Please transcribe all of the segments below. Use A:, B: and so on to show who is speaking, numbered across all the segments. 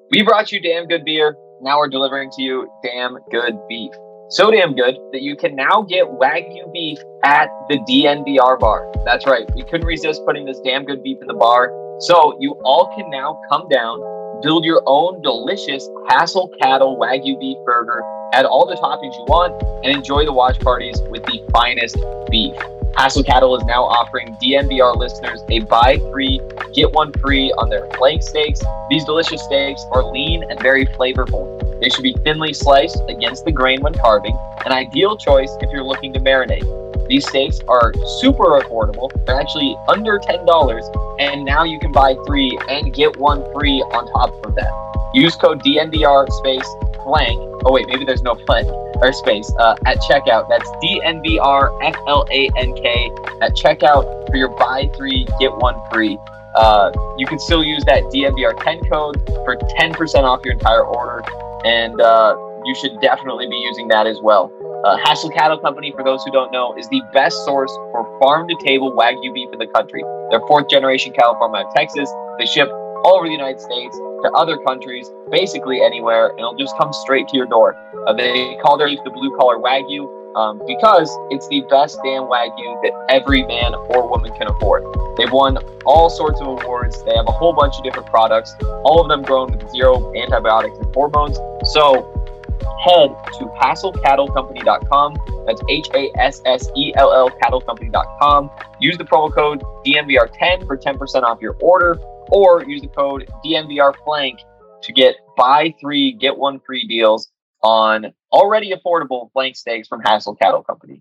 A: We brought you damn good beer. Now we're delivering to you damn good beef. So damn good that you can now get Wagyu beef at the DNVR bar. That's right. We couldn't resist putting this damn good beef in the bar. So you all can now come down, build your own delicious Hassel Cattle Wagyu beef burger, add all the toppings you want, and enjoy the watch parties with the finest beef. Hassel Cattle is now offering DNVR listeners a buy three, get one free on their flank steaks. These delicious steaks are lean and very flavorful. They should be thinly sliced against the grain when carving, an ideal choice if you're looking to marinate. These steaks are super affordable. They're actually under $10, and now you can buy three and get one free on top of that. Use code DNVR space flank. Oh wait, maybe there's no flank or space at checkout. That's DNVR FLANK at checkout for your buy three, get one free. You can still use that DNVR 10 code for 10% off your entire order, and you should definitely be using that as well. Hassel Cattle Company, for those who don't know, is the best source for farm-to-table Wagyu beef in the country. They're fourth-generation cattle farm out of Texas. They ship all over the United States to other countries, basically anywhere, and it'll just come straight to your door. They call their beef the blue-collar Wagyu because it's the best damn Wagyu that every man or woman can afford. They've won all sorts of awards. They have a whole bunch of different products, all of them grown with zero antibiotics and hormones. So head to HassellCattleCompany.com. That's HASSELL CattleCompany.com. Use the promo code DNVR10 for 10% off your order, or use the code DNVRFlank to get buy three, get one free deals on already affordable flank steaks from Hassel Cattle Company.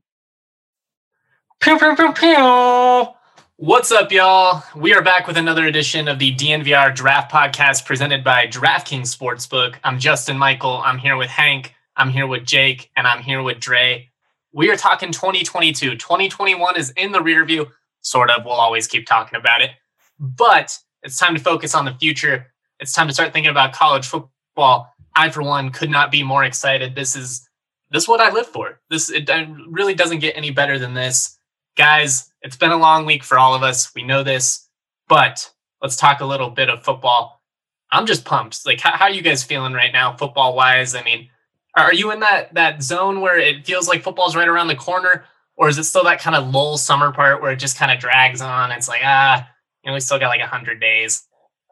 B: Pew, pew, pew, pew. What's up, y'all? We are back with another edition of the DNVR Draft Podcast presented by DraftKings Sportsbook. I'm Justin Michael. I'm here with Hank. I'm here with Jake. And I'm here with Dre. We are talking 2022. 2021 is in the rear view. Sort of. We'll always keep talking about it. But it's time to focus on the future. It's time to start thinking about college football. I, for one, could not be more excited. This is what I live for. It really doesn't get any better than this. Guys, it's been a long week for all of us. We know this, but let's talk a little bit of football. I'm just pumped. Like, how are you guys feeling right now, football-wise? I mean, are you in that zone where it feels like football's right around the corner, or is it still that kind of lull summer part where it just kind of drags on? It's like, we still got like 100 days.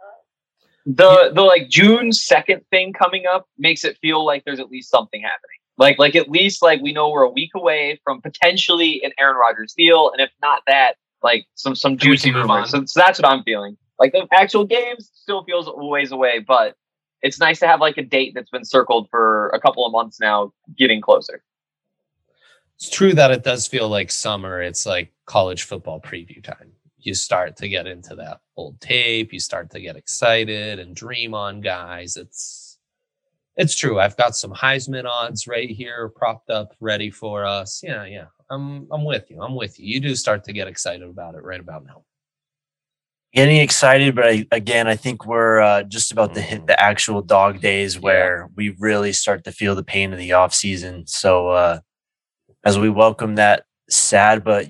A: The like June 2nd thing coming up makes it feel like there's at least something happening. Like at least like we know we're a week away from potentially an Aaron Rodgers deal, and if not that, like some juicy rumors. So that's what I'm feeling. Like the actual games still feels a ways away, but it's nice to have like a date that's been circled for a couple of months now, getting closer.
C: It's true that it does feel like summer. It's like college football preview time. You start to get into that old tape. You start to get excited and dream on guys. It's true. I've got some Heisman odds right here propped up, ready for us. Yeah. I'm with you. You do start to get excited about it right about now.
D: Getting excited, but I think we're just about to hit the actual dog days where we really start to feel the pain of the off season. So as we welcome that sad but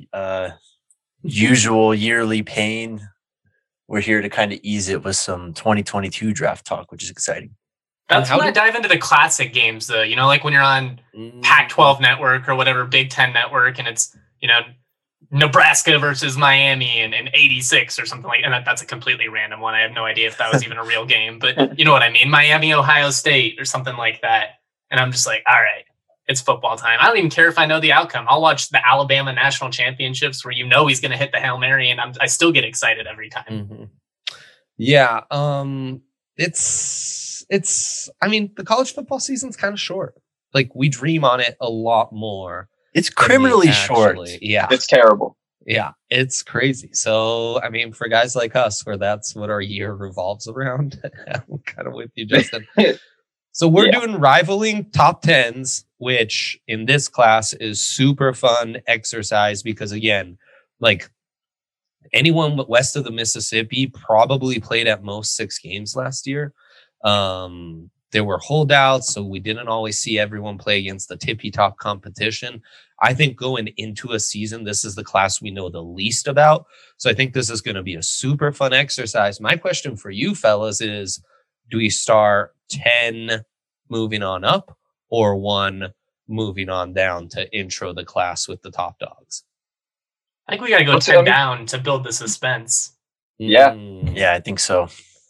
D: usual yearly pain, we're here to kind of ease it with some 2022 draft talk, which is exciting.
B: That's when I dive into the classic games, though. You know, like when you're on Pac-12 network or whatever, Big Ten network, and it's, Nebraska versus Miami in 86 or something like that. And that's a completely random one. I have no idea if that was even a real game, but you know what I mean? Miami, Ohio State or something like that. And I'm just like, all right, it's football time. I don't even care if I know the outcome. I'll watch the Alabama national championships where he's going to hit the Hail Mary, and I still get excited every time.
C: Mm-hmm. Yeah. The college football season's kind of short. Like, we dream on it a lot more.
D: It's criminally short.
C: Yeah.
A: It's terrible.
C: Yeah. It's crazy. So, for guys like us, where that's what our year revolves around, I'm kind of with you, Justin. So we're doing rivaling top tens, which in this class is super fun exercise because, again, like, anyone west of the Mississippi probably played at most 6 games last year. There were holdouts, so we didn't always see everyone play against the tippy-top competition. I think going into a season, this is the class we know the least about. So I think this is going to be a super fun exercise. My question for you fellas is, Do we start 10 moving on up, or 1 moving on down to intro the class with the top dogs?
B: I think we got to go 10 down to build the suspense.
A: Yeah.
D: Yeah, I think so.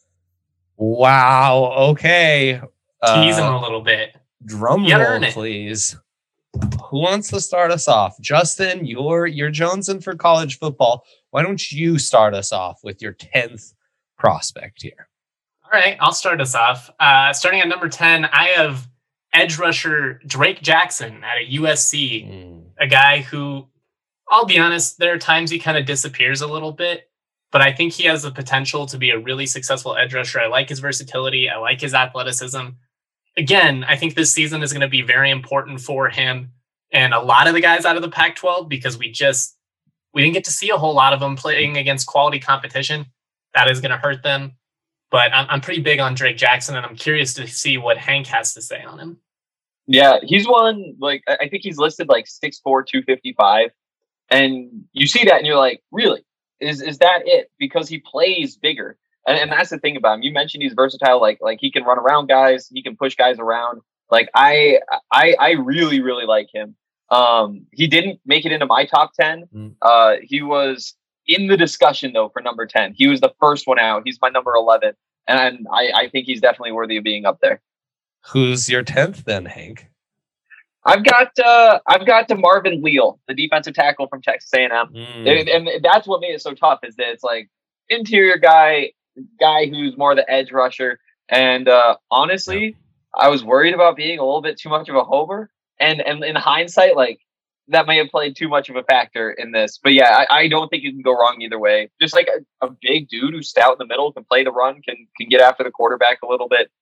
C: Wow. Okay.
B: Tease him a little bit.
C: Drum roll, please. Who wants to start us off? Justin, you're jonesing for college football. Why don't you start us off with your 10th prospect here?
B: All right, I'll start us off. Starting at number 10, I have edge rusher Drake Jackson at a USC, a guy who, I'll be honest, there are times he kind of disappears a little bit, but I think he has the potential to be a really successful edge rusher. I like his versatility. I like his athleticism. Again, I think this season is going to be very important for him and a lot of the guys out of the Pac-12 because we didn't get to see a whole lot of them playing against quality competition. That is going to hurt them. But I'm pretty big on Drake Jackson, and I'm curious to see what Hank has to say on him.
A: Yeah, he's one, like, I think he's listed like 6'4", 255. And you see that and you're like, really? Is that it? Because he plays bigger. And that's the thing about him. You mentioned he's versatile. Like he can run around guys. He can push guys around. Like I really, really like him. He didn't make it into my top 10. He was in the discussion though for number 10. He was the first one out. He's my number 11. And I think he's definitely worthy of being up there.
C: Who's your 10th then, Hank?
A: I've got Marvin Leal, the defensive tackle from Texas A&M. And that's what made it so tough is that it's like interior guy who's more the edge rusher. And honestly, I was worried about being a little bit too much of a homer. And in hindsight, like that may have played too much of a factor in this. But yeah, I don't think you can go wrong either way. Just like a big dude who's stout in the middle, can play the run, can get after the quarterback a little bit.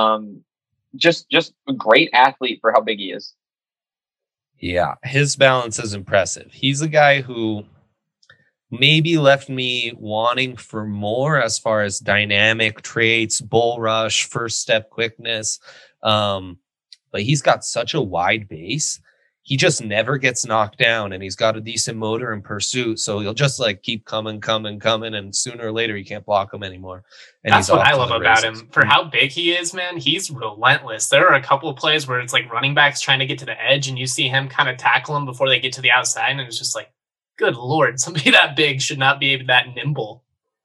A: Just a great athlete for how big he is.
C: Yeah, his balance is impressive. He's a guy who maybe left me wanting for more as far as dynamic traits, bull rush, first step quickness. But he's got such a wide base. He just never gets knocked down, and he's got a decent motor in pursuit. So he'll just like keep coming. And sooner or later you can't block him anymore. And
B: that's what I love about him. For how big he is, man, he's relentless. There are a couple of plays where it's like running backs trying to get to the edge and you see him kind of tackle him before they get to the outside. And it's just like, good Lord, somebody that big should not be that nimble.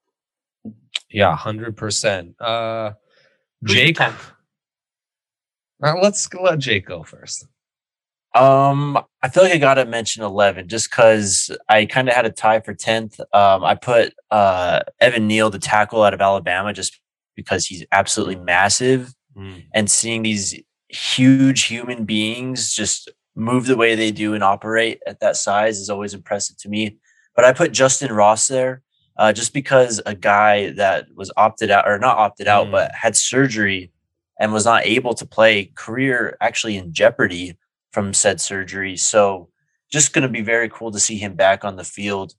C: Yeah, 100%. Jake, let's let Jake go first.
D: I feel like I gotta mention 11 just because I kind of had a tie for 10th. I put Evan Neal, the tackle out of Alabama, just because he's absolutely massive, and seeing these huge human beings just move the way they do and operate at that size is always impressive to me. But I put Justin Ross there just because a guy that was opted out, or not opted out, but had surgery and was not able to play, career actually in jeopardy from said surgery. So just going to be very cool to see him back on the field.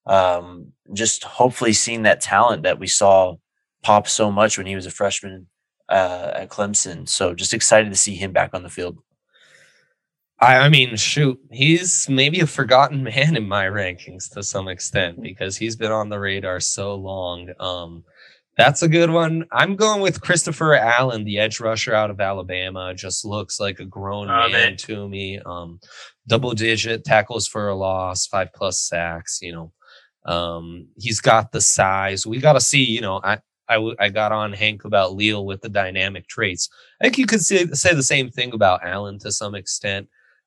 D: Just hopefully seeing that talent that we saw pop so much when he was a freshman at Clemson. So just excited to see him back on the field.
C: I mean, shoot, he's maybe a forgotten man in my rankings to some extent because he's been on the radar so long. That's a good one. I'm going with Christopher Allen, the edge rusher out of Alabama. Just looks like a grown man to me. Double-digit tackles for a loss, 5+ sacks. He's got the size. We got to see. I got on Hank about Leal with the dynamic traits. I think you could say the same thing about Allen to some extent.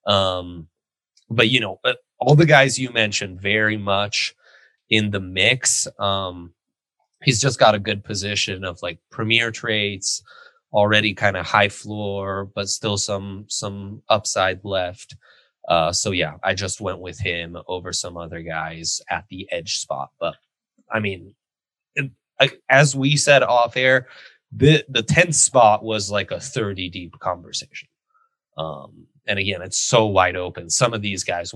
C: But all the guys you mentioned very much in the mix. He's just got a good position of like premier traits, already kind of high floor, but still some upside left. So yeah, I just went with him over some other guys at the edge spot. But I mean, as we said off air, the 10th spot was like a 30 deep conversation. And again, it's so wide open. Some of these guys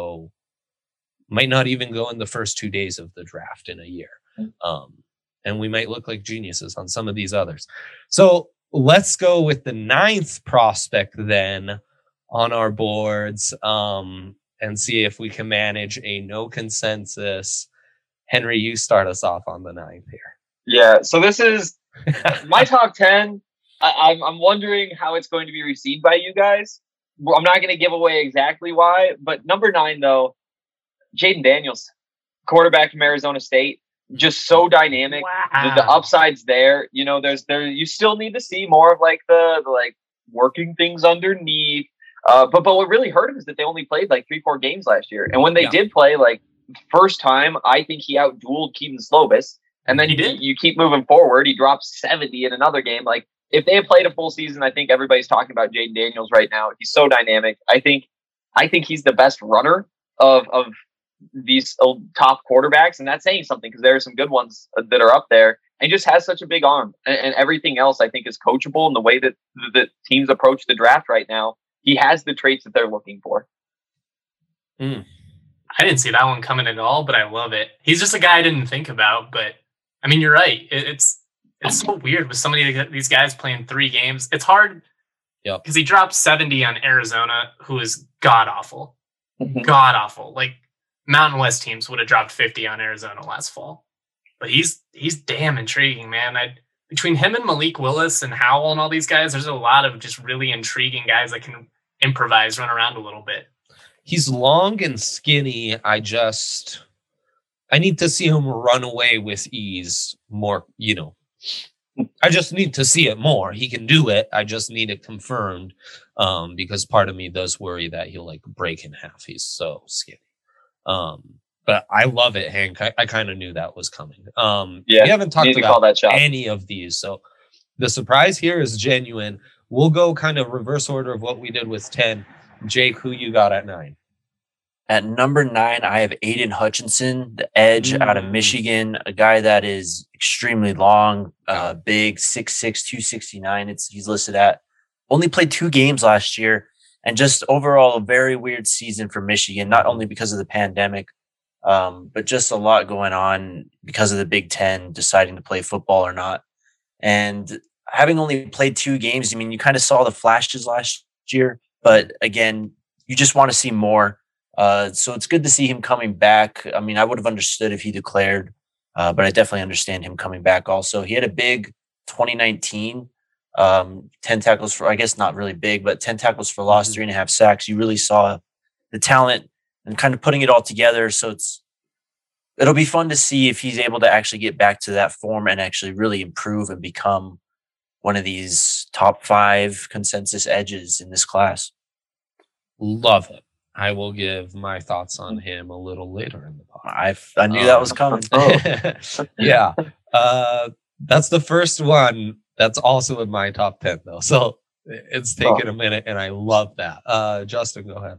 C: might not even go in the first 2 days of the draft in a year. And we might look like geniuses on some of these others. So let's go with the 9th prospect then on our boards and see if we can manage a no consensus. Henry, you start us off on the 9th here.
A: Yeah, so this is My top 10, I'm wondering how it's going to be received by you guys. I'm not going to give away exactly why, but number 9, though, Jaden Daniels, quarterback from Arizona State, just so dynamic.
B: Wow.
A: The upside's there. You know, you still need to see more of like the working things underneath. But what really hurt him is that they only played like 3-4 games last year. And when they did play, like first time, I think he outdueled Keaton Slovis. And then you keep moving forward. He dropped 70 in another game. Like if they had played a full season, I think everybody's talking about Jaden Daniels right now. He's so dynamic. I think he's the best runner of these top quarterbacks. And that's saying something because there are some good ones that are up there. And just has such a big arm. And everything else I think is coachable in the way that the teams approach the draft right now. He has the traits that they're looking for.
B: I didn't see that one coming at all, but I love it. He's just a guy I didn't think about, but I mean, you're right. It's so weird with so many of these guys playing 3 games. It's hard because he dropped 70 on Arizona, who is god-awful. God-awful. Like, Mountain West teams would have dropped 50 on Arizona last fall. But he's damn intriguing, man. Between him and Malik Willis and Howell and all these guys, there's a lot of just really intriguing guys that can improvise, run around a little bit.
C: He's long and skinny. I need to see him run away with ease more, I just need to see it more. He can do it. I just need it confirmed because part of me does worry that he'll like break in half. He's so skinny. But I love it, Hank. I kind of knew that was coming. We haven't talked about any of these. So the surprise here is genuine. We'll go kind of reverse order of what we did with 10. Jake, who you got at 9?
D: At number 9, I have Aiden Hutchinson, the edge out of Michigan, a guy that is extremely long, big, 6'6", 269. He's listed at. Only played 2 games last year, and just overall a very weird season for Michigan, not only because of the pandemic, but just a lot going on because of the Big Ten deciding to play football or not. And having only played 2 games, I mean, you kind of saw the flashes last year, but again, you just want to see more. So it's good to see him coming back. I mean, I would have understood if he declared, but I definitely understand him coming back also. He had a big 2019, 10 tackles for, I guess not really big, but 10 tackles for loss, 3.5 sacks. You really saw the talent and kind of putting it all together. So it'll be fun to see if he's able to actually get back to that form and actually really improve and become one of these top 5 consensus edges in this class.
C: Love it. I will give my thoughts on him a little later in the podcast.
D: I knew that was coming.
C: Yeah. That's the first one. That's also in my top 10 though. So it's taken a minute and I love that. Justin, go ahead.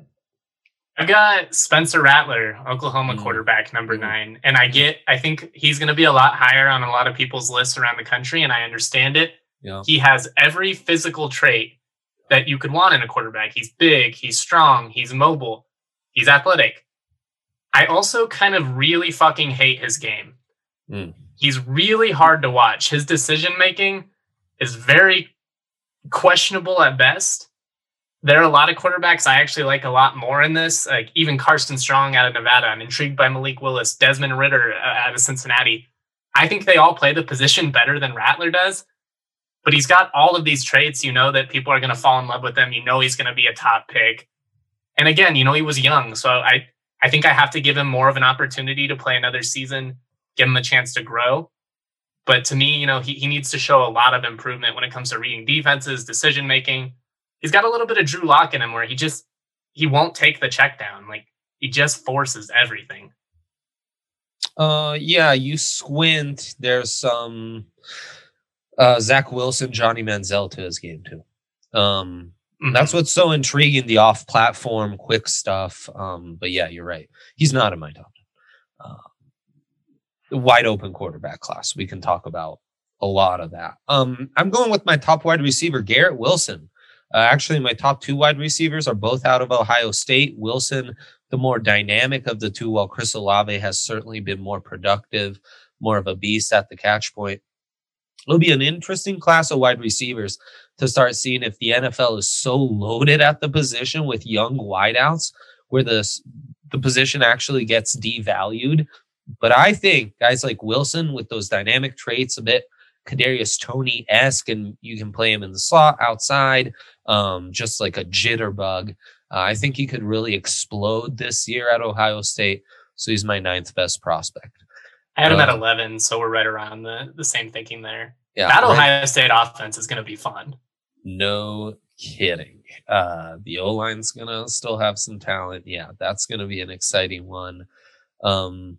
B: I've got Spencer Rattler, Oklahoma quarterback, number 9. And I think he's going to be a lot higher on a lot of people's lists around the country. And I understand it.
C: Yeah.
B: He has every physical trait that you could want in a quarterback. He's big, he's strong, he's mobile, he's athletic. I also kind of really fucking hate his game. He's really hard to watch. His decision-making is very questionable at best. There are a lot of quarterbacks I actually like a lot more in this, like even Carson Strong out of Nevada. I'm intrigued by Malik Willis, Desmond Ridder out of Cincinnati. I think they all play the position better than Rattler does. But he's got all of these traits, that people are going to fall in love with him. He's going to be a top pick. And again, he was young. So I think I have to give him more of an opportunity to play another season, give him a chance to grow. But to me, he needs to show a lot of improvement when it comes to reading defenses, decision-making. He's got a little bit of Drew Lock in him where he won't take the check down. Like, he just forces everything.
C: Yeah, you squint. There's some... Zach Wilson, Johnny Manziel to his game too. That's what's so intriguing, the off-platform quick stuff. But yeah, you're right. He's not in my top 10. Wide open quarterback class. We can talk about a lot of that. I'm going with my top wide receiver, Garrett Wilson. Actually, my top 2 wide receivers are both out of Ohio State. Wilson, the more dynamic of the 2, while Chris Olave has certainly been more productive, more of a beast at the catch point. It'll be an interesting class of wide receivers to start seeing if the NFL is so loaded at the position with young wideouts where the position actually gets devalued. But I think guys like Wilson with those dynamic traits, a bit Kadarius Toney-esque, and you can play him in the slot outside, just like a jitterbug. I think he could really explode this year at Ohio State. So he's my 9th best prospect.
B: I had him at 11, so we're right around the same thinking there.
C: Yeah,
B: that Ohio State offense is going to be fun.
C: No kidding. The O-line's going to still have some talent. Yeah, that's going to be an exciting one. All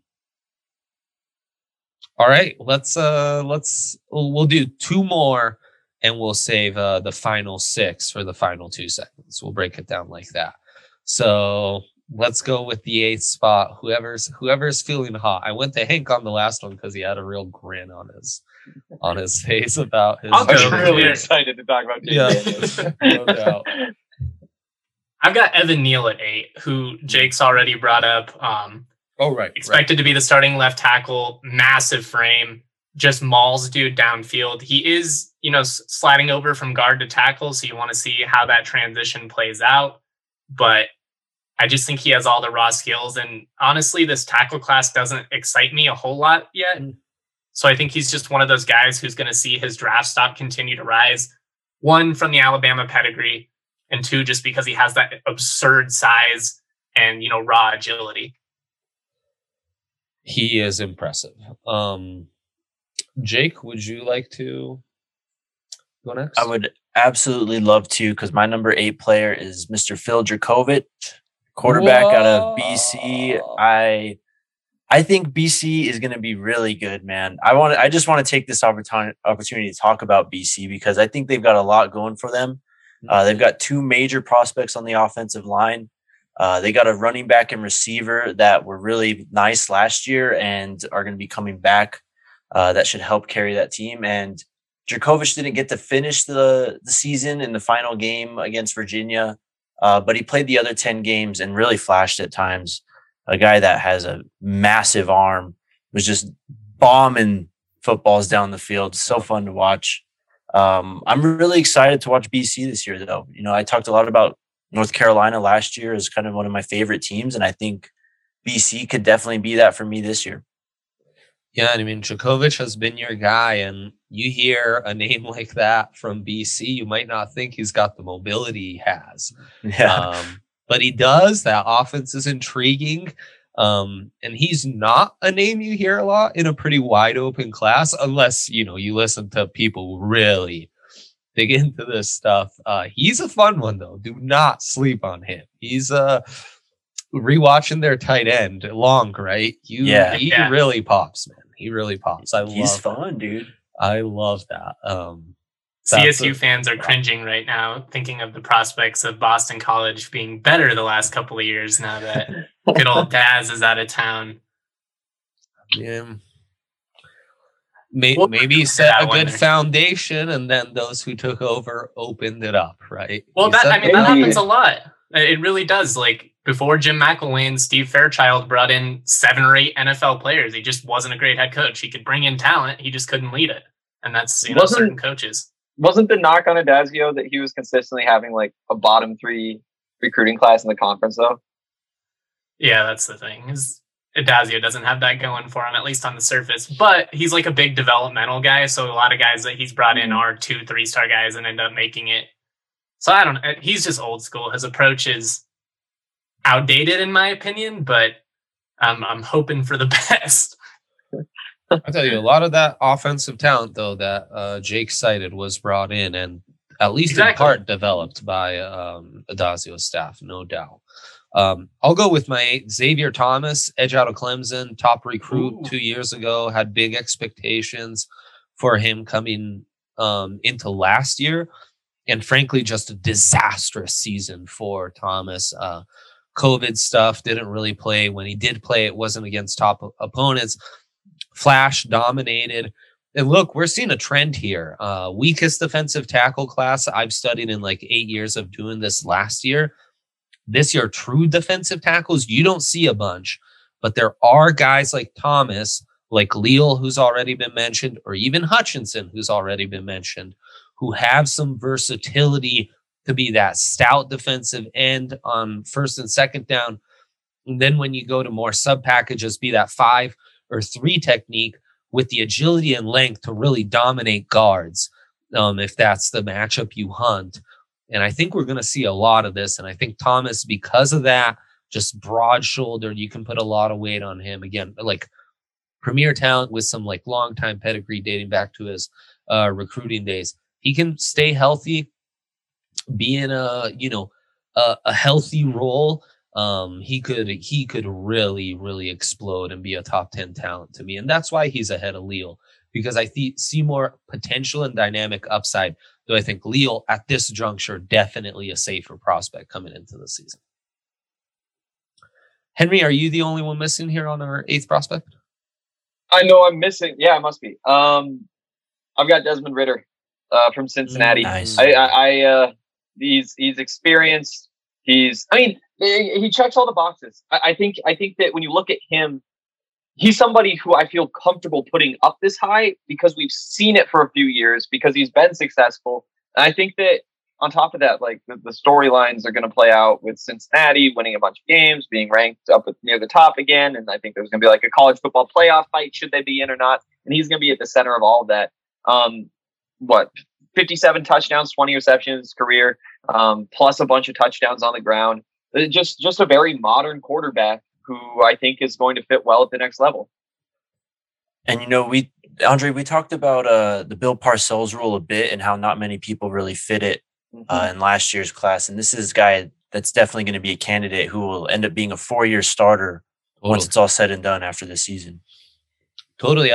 C: right, we'll do 2 more and we'll save the final 6 for the final 2 seconds. We'll break it down like that. So let's go with the 8th spot. Whoever's feeling hot. I went to Hank on the last one because he had a real grin on his face about his.
A: I'm really excited to talk about.
C: Yeah, no doubt.
B: I've got Evan Neal at 8, who Jake's already brought up. Expected to be the starting left tackle, massive frame, just mauls dude downfield. He is, sliding over from guard to tackle, so you want to see how that transition plays out. But I just think he has all the raw skills. And honestly, this tackle class doesn't excite me a whole lot yet. So I think he's just one of those guys who's going to see his draft stock continue to rise. 1, from the Alabama pedigree, and 2, just because he has that absurd size and, raw agility.
C: He is impressive. Jake, would you like to go next?
D: I would absolutely love to, because my number 8 player is Mr. Phil Dracovic, quarterback out of BC. I think BC is going to be really good, man. I just want to take this opportunity to talk about BC because I think they've got a lot going for them. They've got 2 major prospects on the offensive line. They got a running back and receiver that were really nice last year and are going to be coming back. That should help carry that team. And Dracovic didn't get to finish the season in the final game against Virginia, but he played the other 10 games and really flashed at times. A guy that has a massive arm, was just bombing footballs down the field. So fun to watch. I'm really excited to watch BC this year, though. I talked a lot about North Carolina last year as kind of one of my favorite teams, and I think BC could definitely be that for me this year.
C: Yeah, I mean, Dracovic has been your guy, and you hear a name like that from BC, you might not think he's got the mobility he has.
D: Yeah.
C: But he does. That offense is intriguing. And he's not a name you hear a lot in a pretty wide open class, unless, you listen to people who really dig into this stuff. He's a fun one, though. Do not sleep on him. He's rewatching their tight end, Long, right? He really pops, man. He really pops.
D: He's fun, dude.
C: I love that.
B: CSU fans are cringing right now, thinking of the prospects of Boston College being better the last couple of years now that good old Daz is out of town.
C: Yeah. Maybe set a good foundation, and then those who took over opened it up, right?
B: Well, that happens a lot. It really does. Like, before Jim McElwain, Steve Fairchild brought in 7 or 8 NFL players. He just wasn't a great head coach. He could bring in talent. He just couldn't lead it. And that's, certain coaches.
A: Wasn't the knock on Adazio that he was consistently having like a bottom 3 recruiting class in the conference, though?
B: Yeah, that's the thing. Adazio doesn't have that going for him, at least on the surface. But he's like a big developmental guy. So a lot of guys that he's brought in are 2-3-star guys and end up making it. So I don't know. He's just old school. His approach is outdated, in my opinion, but I'm hoping for the best.
C: I'll tell you, a lot of that offensive talent, though, that Jake cited was brought in and at least in part developed by Adazio's staff, no doubt. I'll go with my 8, Xavier Thomas, edge out of Clemson, top recruit 2 years ago, had big expectations for him coming into last year. And frankly, just a disastrous season for Thomas. COVID stuff, didn't really play. When he did play, it wasn't against top opponents. Flash dominated. And look, we're seeing a trend here. Weakest defensive tackle class I've studied in like 8 years of doing this last year. This year, true defensive tackles, you don't see a bunch. But there are guys like Thomas, like Leal, who's already been mentioned, or even Hutchinson, who's already been mentioned, who have some versatility to be that stout defensive end on first and second down. And then when you go to more sub packages, be that 5 or 3 technique with the agility and length to really dominate guards if that's the matchup you hunt. And I think we're going to see a lot of this. And I think Thomas, because of that, just broad-shouldered, you can put a lot of weight on him. Again, like premier talent with some like long-time pedigree dating back to his recruiting days. He can stay healthy, be in a healthy role. He could really explode and be a top 10 talent to me. And that's why he's ahead of Leal, because I see more potential and dynamic upside. Though I think Leal at this juncture, definitely a safer prospect coming into the season. Henry, are you the only one missing here on our 8th prospect?
A: I know I'm missing. Yeah, I must be. I've got Desmond Ridder from Cincinnati.
D: Nice.
A: He's experienced. He checks all the boxes. I think that when you look at him, he's somebody who I feel comfortable putting up this high because we've seen it for a few years, because he's been successful. And I think that on top of that, like the storylines are going to play out with Cincinnati winning a bunch of games, being ranked up near the top again. And I think there's going to be like a college football playoff fight, should they be in or not. And he's going to be at the center of all of that. 57 touchdowns, 20 receptions career, plus a bunch of touchdowns on the ground. Just a very modern quarterback who I think is going to fit well at the next level.
D: And, Andre, we talked about the Bill Parcells rule a bit and how not many people really fit it in last year's class. And this is a guy that's definitely going to be a candidate who will end up being a 4-year starter once it's all said and done after this season.
C: Totally.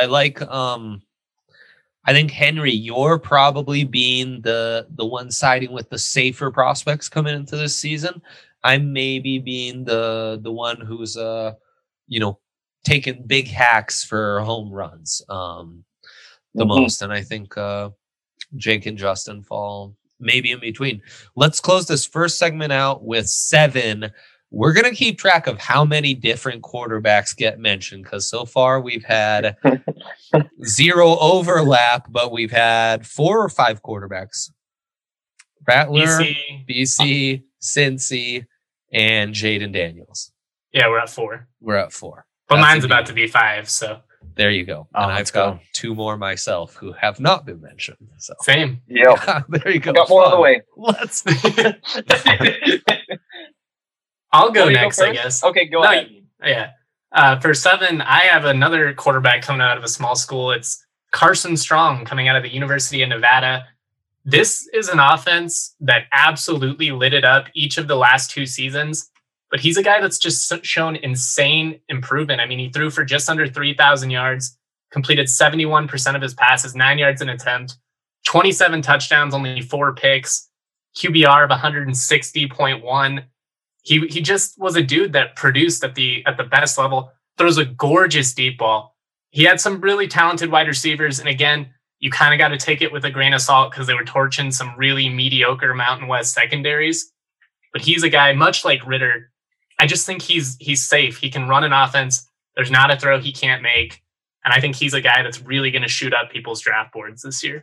C: I think, Henry, you're probably being the one siding with the safer prospects coming into this season. I'm maybe being the one who's taking big hacks for home runs the most. And I think Jake and Justin fall maybe in between. Let's close this first segment out with 7. We're going to keep track of how many different quarterbacks get mentioned, because so far we've had 0 overlap, but we've had 4 or 5 quarterbacks. Rattler, BC, Cincy, and Jaden Daniels.
B: Yeah, we're at 4.
C: We're at 4.
B: But mine's about to be 5, so.
C: There you go. And I've got 2 more myself who have not been mentioned. So.
B: Same.
A: Yeah.
C: There you go.
A: Got more on the way.
C: Let's.
B: I'll go next, I guess.
A: Okay, go ahead.
B: Yeah. For 7, I have another quarterback coming out of a small school. It's Carson Strong coming out of the University of Nevada. This is an offense that absolutely lit it up each of the last 2 seasons. But he's a guy that's just shown insane improvement. I mean, he threw for just under 3,000 yards, completed 71% of his passes, 9 yards an attempt, 27 touchdowns, only 4 picks, QBR of 160.1. He just was a dude that produced at the best level, throws a gorgeous deep ball. He had some really talented wide receivers. And again, you kind of got to take it with a grain of salt because they were torching some really mediocre Mountain West secondaries. But he's a guy, much like Ridder, I just think he's safe. He can run an offense. There's not a throw he can't make. And I think he's a guy that's really going to shoot up people's draft boards this year.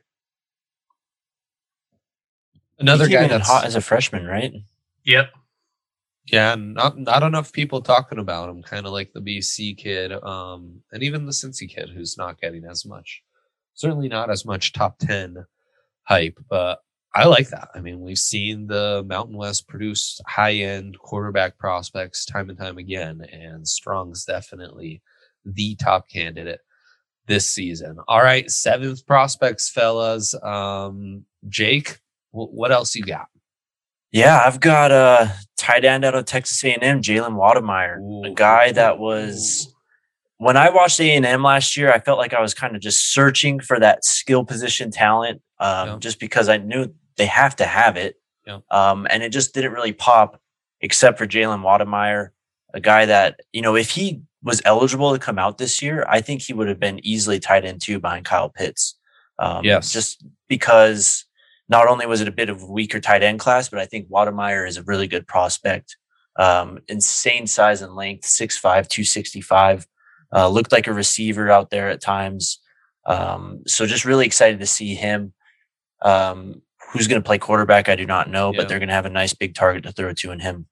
C: Another guy that's
D: hot as a freshman, right?
B: Yep.
C: Yeah, not enough people talking about him, kind of like the BC kid, and even the Cincy kid who's not getting as much. Certainly not as much top 10 hype, but I like that. I mean, we've seen the Mountain West produce high-end quarterback prospects time and time again, and Strong's definitely the top candidate this season. All right, 7th prospects, fellas. Jake, what else you got?
D: Yeah, I've got a tight end out of Texas A&M, Jalen Wademeyer, a guy that was... When I watched A&M last year, I felt like I was kind of just searching for that skill position talent, just because I knew they have to have it.
C: Yeah.
D: And it just didn't really pop except for Jalen Wademeyer, a guy that, if he was eligible to come out this year, I think he would have been easily tight end 2 behind Kyle Pitts.
C: Yes.
D: Just because not only was it a bit of a weaker tight end class, but I think Wademeyer is a really good prospect. Insane size and length, 6'5", 265. Looked like a receiver out there at times. So just really excited to see him. Who's going to play quarterback, I do not know, but they're going to have a nice big target to throw to in him.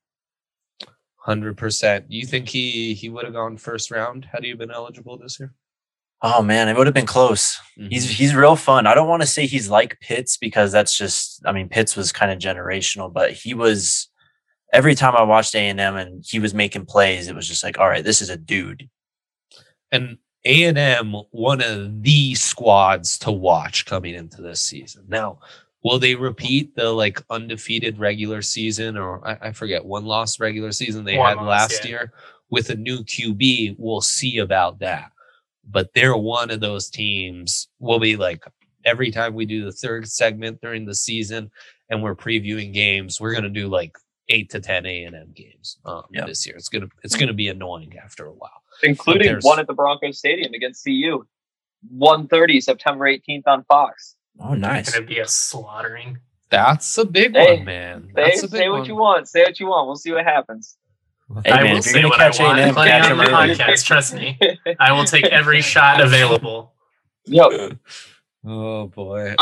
C: 100%. You think he would have gone first round had he been eligible this year?
D: Oh man, it would have been close.
C: Mhm.
D: He's real fun. I don't want to say he's like Pitts because that's just, I mean, Pitts was kind of generational, but he was, every time I watched A&M and he was making plays, it was just like, all right, this is a dude.
C: And A&M, one of the squads to watch coming into this season. Now, will they repeat the like undefeated regular season, or I forget, one loss regular season they had last year with a new QB? We'll see about that. But they're one of those teams. We'll be like, every time we do the third segment during the season and we're previewing games, we're going to do like 8 to 10 A&M games this year. It's gonna be annoying after a while.
A: Including one at the Broncos Stadium against CU. 1:30, September 18th on Fox.
D: Oh, nice.
B: It's going to be a slaughtering.
C: That's a big one, man.
A: Say what you want. Say what you want. We'll see what happens.
D: Hey,
B: I
D: man,
B: will
D: if you're
B: say
D: gonna
B: what
D: catch
B: I want.
D: A&M,
B: Plenty
D: catch
B: on
D: them
B: the
D: early.
B: podcast, trust me. I will take every shot available.
A: Yep.
C: Oh boy.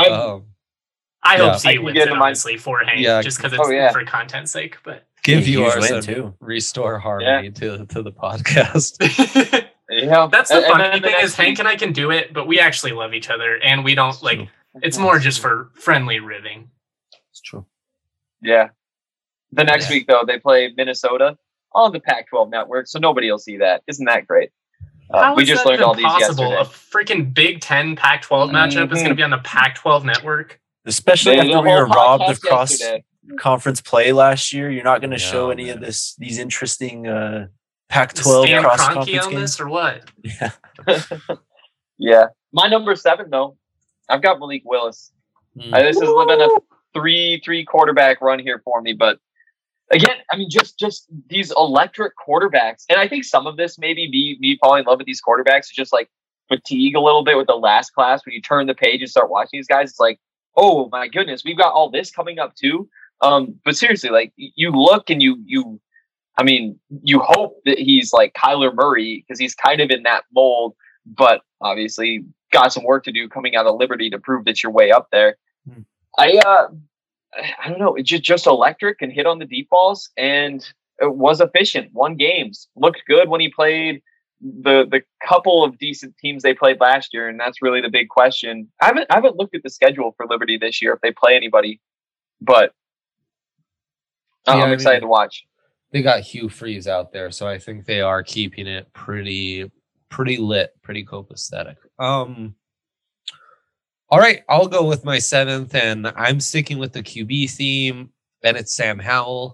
B: I hope
A: I
B: CU
A: can
B: wins
A: get
B: it,
A: in my-
B: honestly, for Hank,
C: Yeah.
B: just because it's for content's sake. But
C: Give
D: Yeah, huge
C: yours
D: win,
C: and
D: too.
C: restore harmony to the podcast.
A: Yeah.
B: that's the
A: And
B: funny
A: then the
B: thing
A: next
B: is Hank
A: week-
B: and I can do it, but we actually love each other, and we don't like. It's more just for friendly ribbing.
C: It's true.
A: Yeah. The next week, though, they play Minnesota on the Pac-12 network, so nobody will see that. Isn't that great?
B: How
A: We
B: is
A: just
B: that
A: learned
B: even
A: all these
B: possible?
A: yesterday.
B: A freaking Big Ten Pac-12 matchup is going to be on the Pac-12 network.
D: Especially
A: The
D: after we
A: whole
D: were robbed of
A: podcast yesterday.
D: conference play last year. You're not going to
C: Yeah,
D: show any
C: man.
D: of these interesting Pac-12
B: Stan
D: cross
B: Kroenke
D: conference
B: on
D: games.
B: this or what?
D: Yeah.
A: Yeah. My number 7, though, I've got Malik Willis.
C: Mm.
A: This is living a three quarterback run here for me, but again, I mean, just these electric quarterbacks, and I think some of this maybe me falling in love with these quarterbacks is just like fatigue a little bit with the last class. When you turn the page and start watching these guys, it's like, oh my goodness, we've got all this coming up too. But seriously, like you look and you hope that he's like Kyler Murray because he's kind of in that mold, but obviously got some work to do coming out of Liberty to prove that you're way up there. I don't know. It's just electric and hit on the deep balls, and it was efficient. Won games, looked good when he played the couple of decent teams they played last year, and that's really the big question. I haven't looked at the schedule for Liberty this year if they play anybody, but I'm excited to watch.
C: They got Hugh Freeze out there, so I think they are keeping it pretty lit, pretty copacetic. All right, I'll go with my 7th, and I'm sticking with the QB theme, and it's Sam Howell.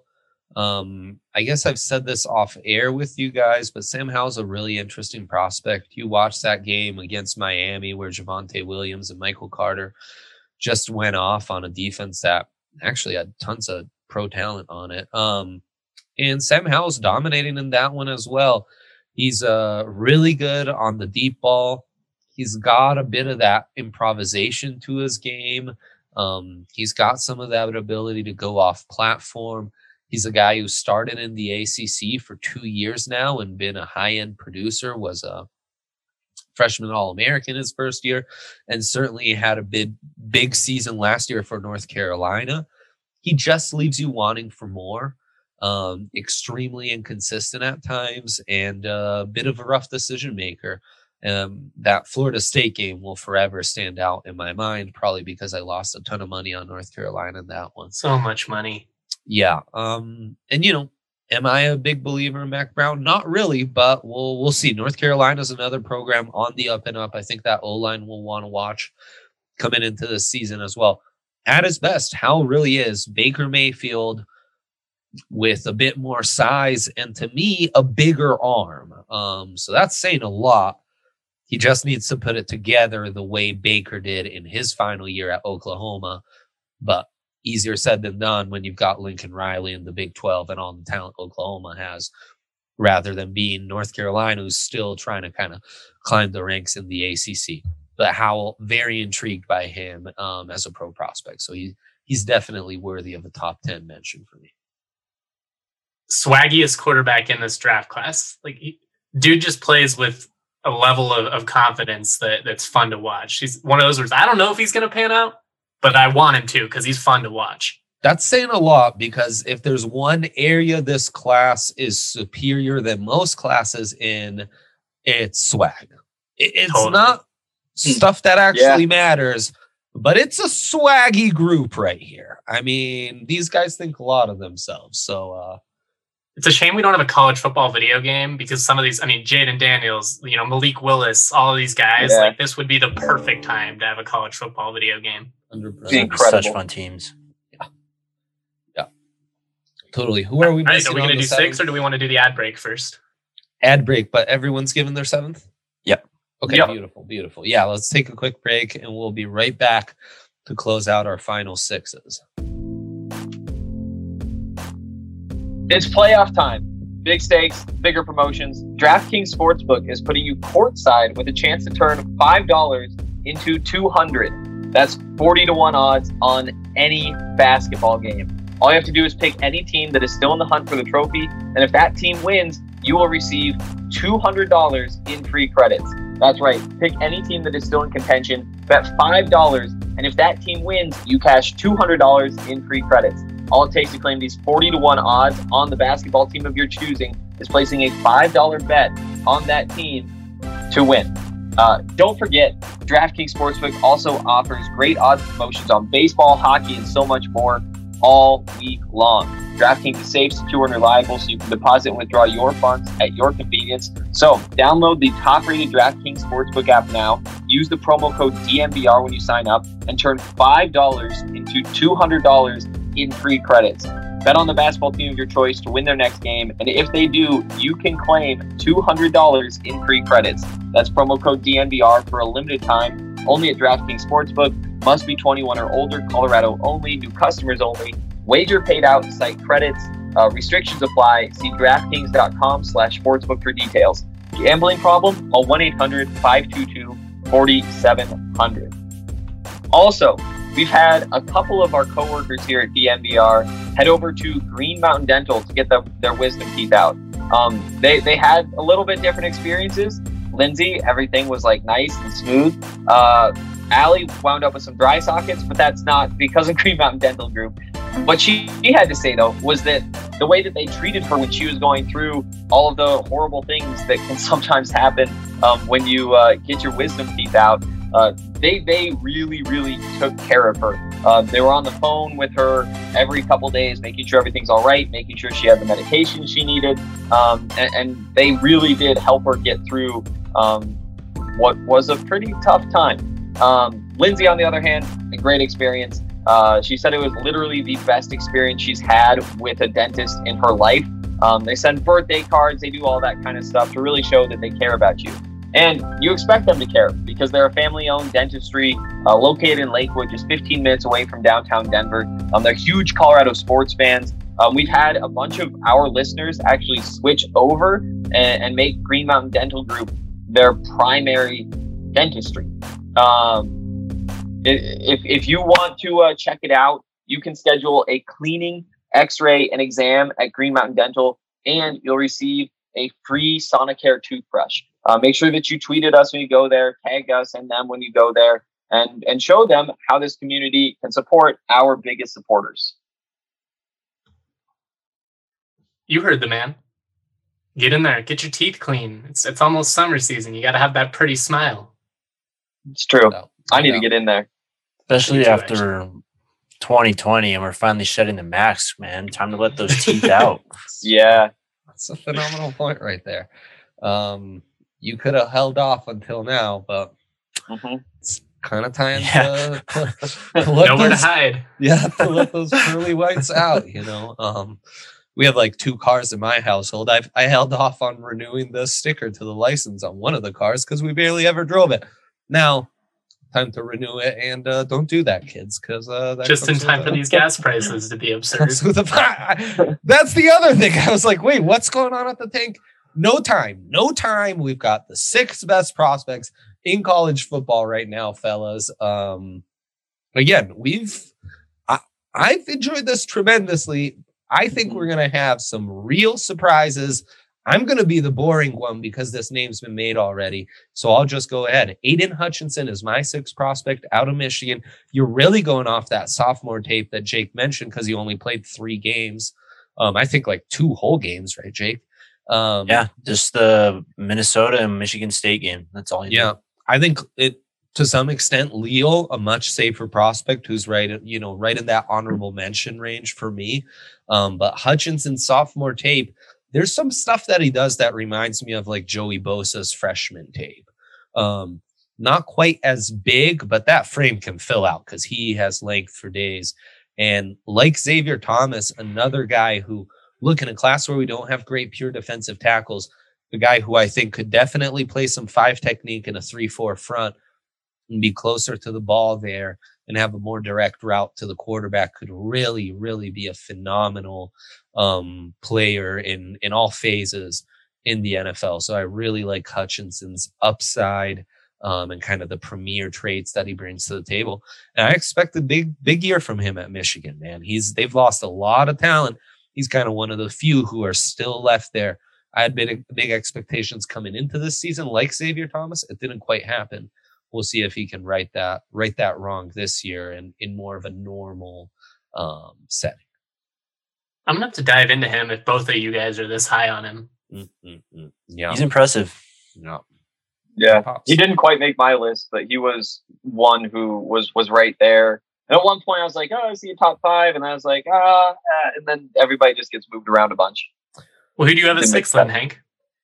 C: I guess I've said this off air with you guys, but Sam Howell's a really interesting prospect. You watched that game against Miami where Javonte Williams and Michael Carter just went off on a defense that actually had tons of pro talent on it. And Sam Howell's dominating in that one as well. He's really good on the deep ball. He's got a bit of that improvisation to his game. He's got some of that ability to go off platform. He's a guy who started in the ACC for 2 years now and been a high-end producer, was a freshman All-American his first year, and certainly had a big season last year for North Carolina. He just leaves you wanting for more. Extremely inconsistent at times and a bit of a rough decision maker. That Florida State game will forever stand out in my mind, probably because I lost a ton of money on North Carolina in that one.
B: So much money.
C: Yeah. And am I a big believer in Mac Brown? Not really, but we'll see. North Carolina's another program on the up and up. I think that O-line will want to watch coming into this season as well. At his best, Howell really is Baker Mayfield with a bit more size and, to me, a bigger arm. So that's saying a lot. He just needs to put it together the way Baker did in his final year at Oklahoma. But easier said than done when you've got Lincoln Riley in the Big 12 and all the talent Oklahoma has, rather than being North Carolina, who's still trying to kind of climb the ranks in the ACC. But Howell, very intrigued by him as a pro prospect. So he's definitely worthy of a top 10 mention for me.
B: Swaggiest quarterback in this draft class. Dude just plays with a level of confidence that's fun to watch. He's one of those where I don't know if he's going to pan out, but I want him to because he's fun to watch.
C: That's saying a lot, because if there's one area this class is superior than most classes in, it's swag. It's
B: Totally.
C: not stuff that actually matters, but it's a swaggy group right here. I mean, these guys think a lot of themselves. So
B: it's a shame we don't have a college football video game because some of these, I mean, Jaden Daniels, Malik Willis, all of these guys, like this would be the perfect time to have a college football video game.
C: 100%.
A: Incredible.
D: Such fun teams.
C: Yeah. Totally. Who are we missing?
B: Are we going to do 6 or do we want to do the ad break first?
C: Ad break, but everyone's given their 7th?
D: Yep.
C: Okay, beautiful. Yeah, let's take a quick break and we'll be right back to close out our final 6s.
A: It's playoff time. Big stakes, bigger promotions. DraftKings Sportsbook is putting you courtside with a chance to turn $5 into $200. That's 40-1 odds on any basketball game. All you have to do is pick any team that is still in the hunt for the trophy, and if that team wins, you will receive $200 in free credits. That's right. Pick any team that is still in contention, bet $5, and if that team wins, you cash $200 in free credits. All it takes to claim these 40-1 odds on the basketball team of your choosing is placing a $5 bet on that team to win. Don't forget, DraftKings Sportsbook also offers great odds promotions on baseball, hockey, and so much more all week long. DraftKings is safe, secure, and reliable, so you can deposit and withdraw your funds at your convenience. So download the top-rated DraftKings Sportsbook app now. Use the promo code DNVR when you sign up and turn $5 into $200 in free credits. Bet on the basketball team of your choice to win their next game, and if they do, you can claim $200 in free credits. That's promo code DNVR for a limited time, only at DraftKings Sportsbook. Must be 21 or older, Colorado only, new customers only. Wager paid out, site credits. Restrictions apply. See DraftKings.com/sportsbook for details. Gambling problem? Call 1-800-522-4700. Also, we've had a couple of our coworkers here at DNVR head over to Green Mountain Dental to get their wisdom teeth out. They had a little bit different experiences. Lindsay, everything was like nice and smooth. Allie wound up with some dry sockets, but that's not because of Green Mountain Dental Group. What she had to say, though, was that the way that they treated her when she was going through all of the horrible things that can sometimes happen when you get your wisdom teeth out, they really, really took care of her. They were on the phone with her every couple days, making sure everything's all right, making sure she had the medication she needed, and they really did help her get through what was a pretty tough time. Lindsay, on the other hand, a great experience. She said it was literally the best experience she's had with a dentist in her life. They send birthday cards, they do all that kind of stuff to really show that they care about you. And you expect them to care because they're a family-owned dentistry located in Lakewood, just 15 minutes away from downtown Denver. They're huge Colorado sports fans. We've had a bunch of our listeners actually switch over and make Green Mountain Dental Group their primary dentistry. If you want to check it out, you can schedule a cleaning, x-ray, and exam at Green Mountain Dental, and you'll receive a free Sonicare toothbrush. Make sure that you tweet at us when you go there, tag us and them when you go there, and show them how this community can support our biggest supporters.
B: You heard the man. Get in there. Get your teeth clean. It's almost summer season. You got to have that pretty smile.
A: It's true. I need to get in there.
D: Especially after 2020 and we're finally shedding the masks, man. Time to let those teeth out.
A: Yeah.
C: That's a phenomenal point right there. You could have held off until now, but it's kind of time to let
B: nowhere to hide.
C: Yeah, to let those pearly whites out, We have like 2 cars in my household. I held off on renewing the sticker to the license on one of the cars because we barely ever drove it. Now, time to renew it, and don't do that, kids, because
B: just in time for these gas prices to be absurd.
C: That's the other thing. I was like, wait, what's going on at the tank? No time. We've got the 6 best prospects in college football right now, fellas. Again, I've enjoyed this tremendously. I think we're going to have some real surprises. I'm going to be the boring one because this name's been made already. So I'll just go ahead. Aiden Hutchinson is my 6th prospect out of Michigan. You're really going off that sophomore tape that Jake mentioned because he only played 3 games. I think like 2 whole games, right, Jake?
D: Just the Minnesota and Michigan State game. That's all.
C: I think it to some extent. Leo, a much safer prospect, who's right in that honorable mention range for me. But Hutchinson sophomore tape, there's some stuff that he does that reminds me of like Joey Bosa's freshman tape. Not quite as big, but that frame can fill out because he has length for days. And like Xavier Thomas, another guy who, look, in a class where we don't have great pure defensive tackles, the guy who I think could definitely play some 5 technique and a 3-4 front and be closer to the ball there and have a more direct route to the quarterback could really, really be a phenomenal player in all phases in the NFL. So I really like Hutchinson's upside and kind of the premier traits that he brings to the table. And I expect a big year from him at Michigan, man. They've lost a lot of talent. He's kind of one of the few who are still left there. I had big expectations coming into this season, like Xavier Thomas. It didn't quite happen. We'll see if he can right that wrong this year and in more of a normal setting.
B: I'm gonna have to dive into him if both of you guys are this high on him.
D: Yeah, he's impressive.
A: Yeah, he didn't quite make my list, but he was one who was right there. And at one point, I was like, "Oh, I see a top 5," and I was like, and then everybody just gets moved around a bunch.
B: Well, who do you have at 6th then, Hank?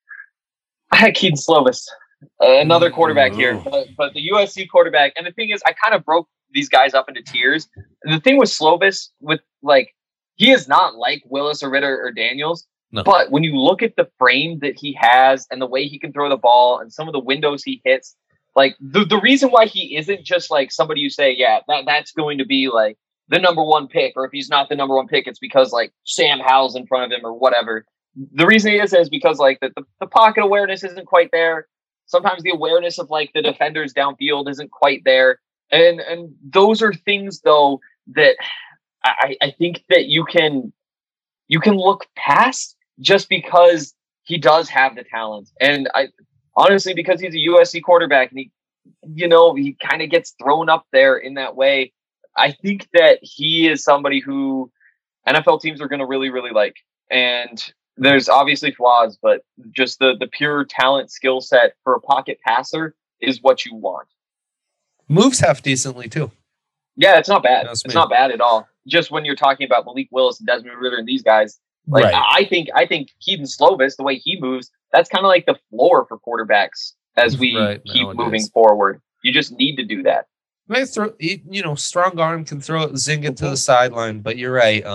A: I had Keaton Slovis, another quarterback here, but the USC quarterback. And the thing is, I kind of broke these guys up into tiers. And the thing with Slovis, he is not like Willis or Ritter or Daniels. No. But when you look at the frame that he has and the way he can throw the ball and some of the windows he hits, like the reason why he isn't just like somebody you say, that's going to be like the number 1 pick, or if he's not the number 1 pick, it's because like Sam Howell's in front of him or whatever. The reason he is because like the pocket awareness isn't quite there. Sometimes the awareness of like the defenders downfield isn't quite there. And those are things though that I think that you can look past just because he does have the talent. And I honestly, because he's a USC quarterback and he kind of gets thrown up there in that way. I think that he is somebody who NFL teams are going to really, really like. And there's obviously flaws, but just the pure talent skill set for a pocket passer is what you want.
C: Moves half decently too.
A: Yeah, it's not bad. It's not bad at all. Just when you're talking about Malik Willis and Desmond Ridder and these guys, like right. I think Keaton Slovis, the way he moves, that's kind of like the floor for quarterbacks as we keep moving forward. You just need to do that.
C: Strong arm can throw it, zing it to the sideline, but you're right.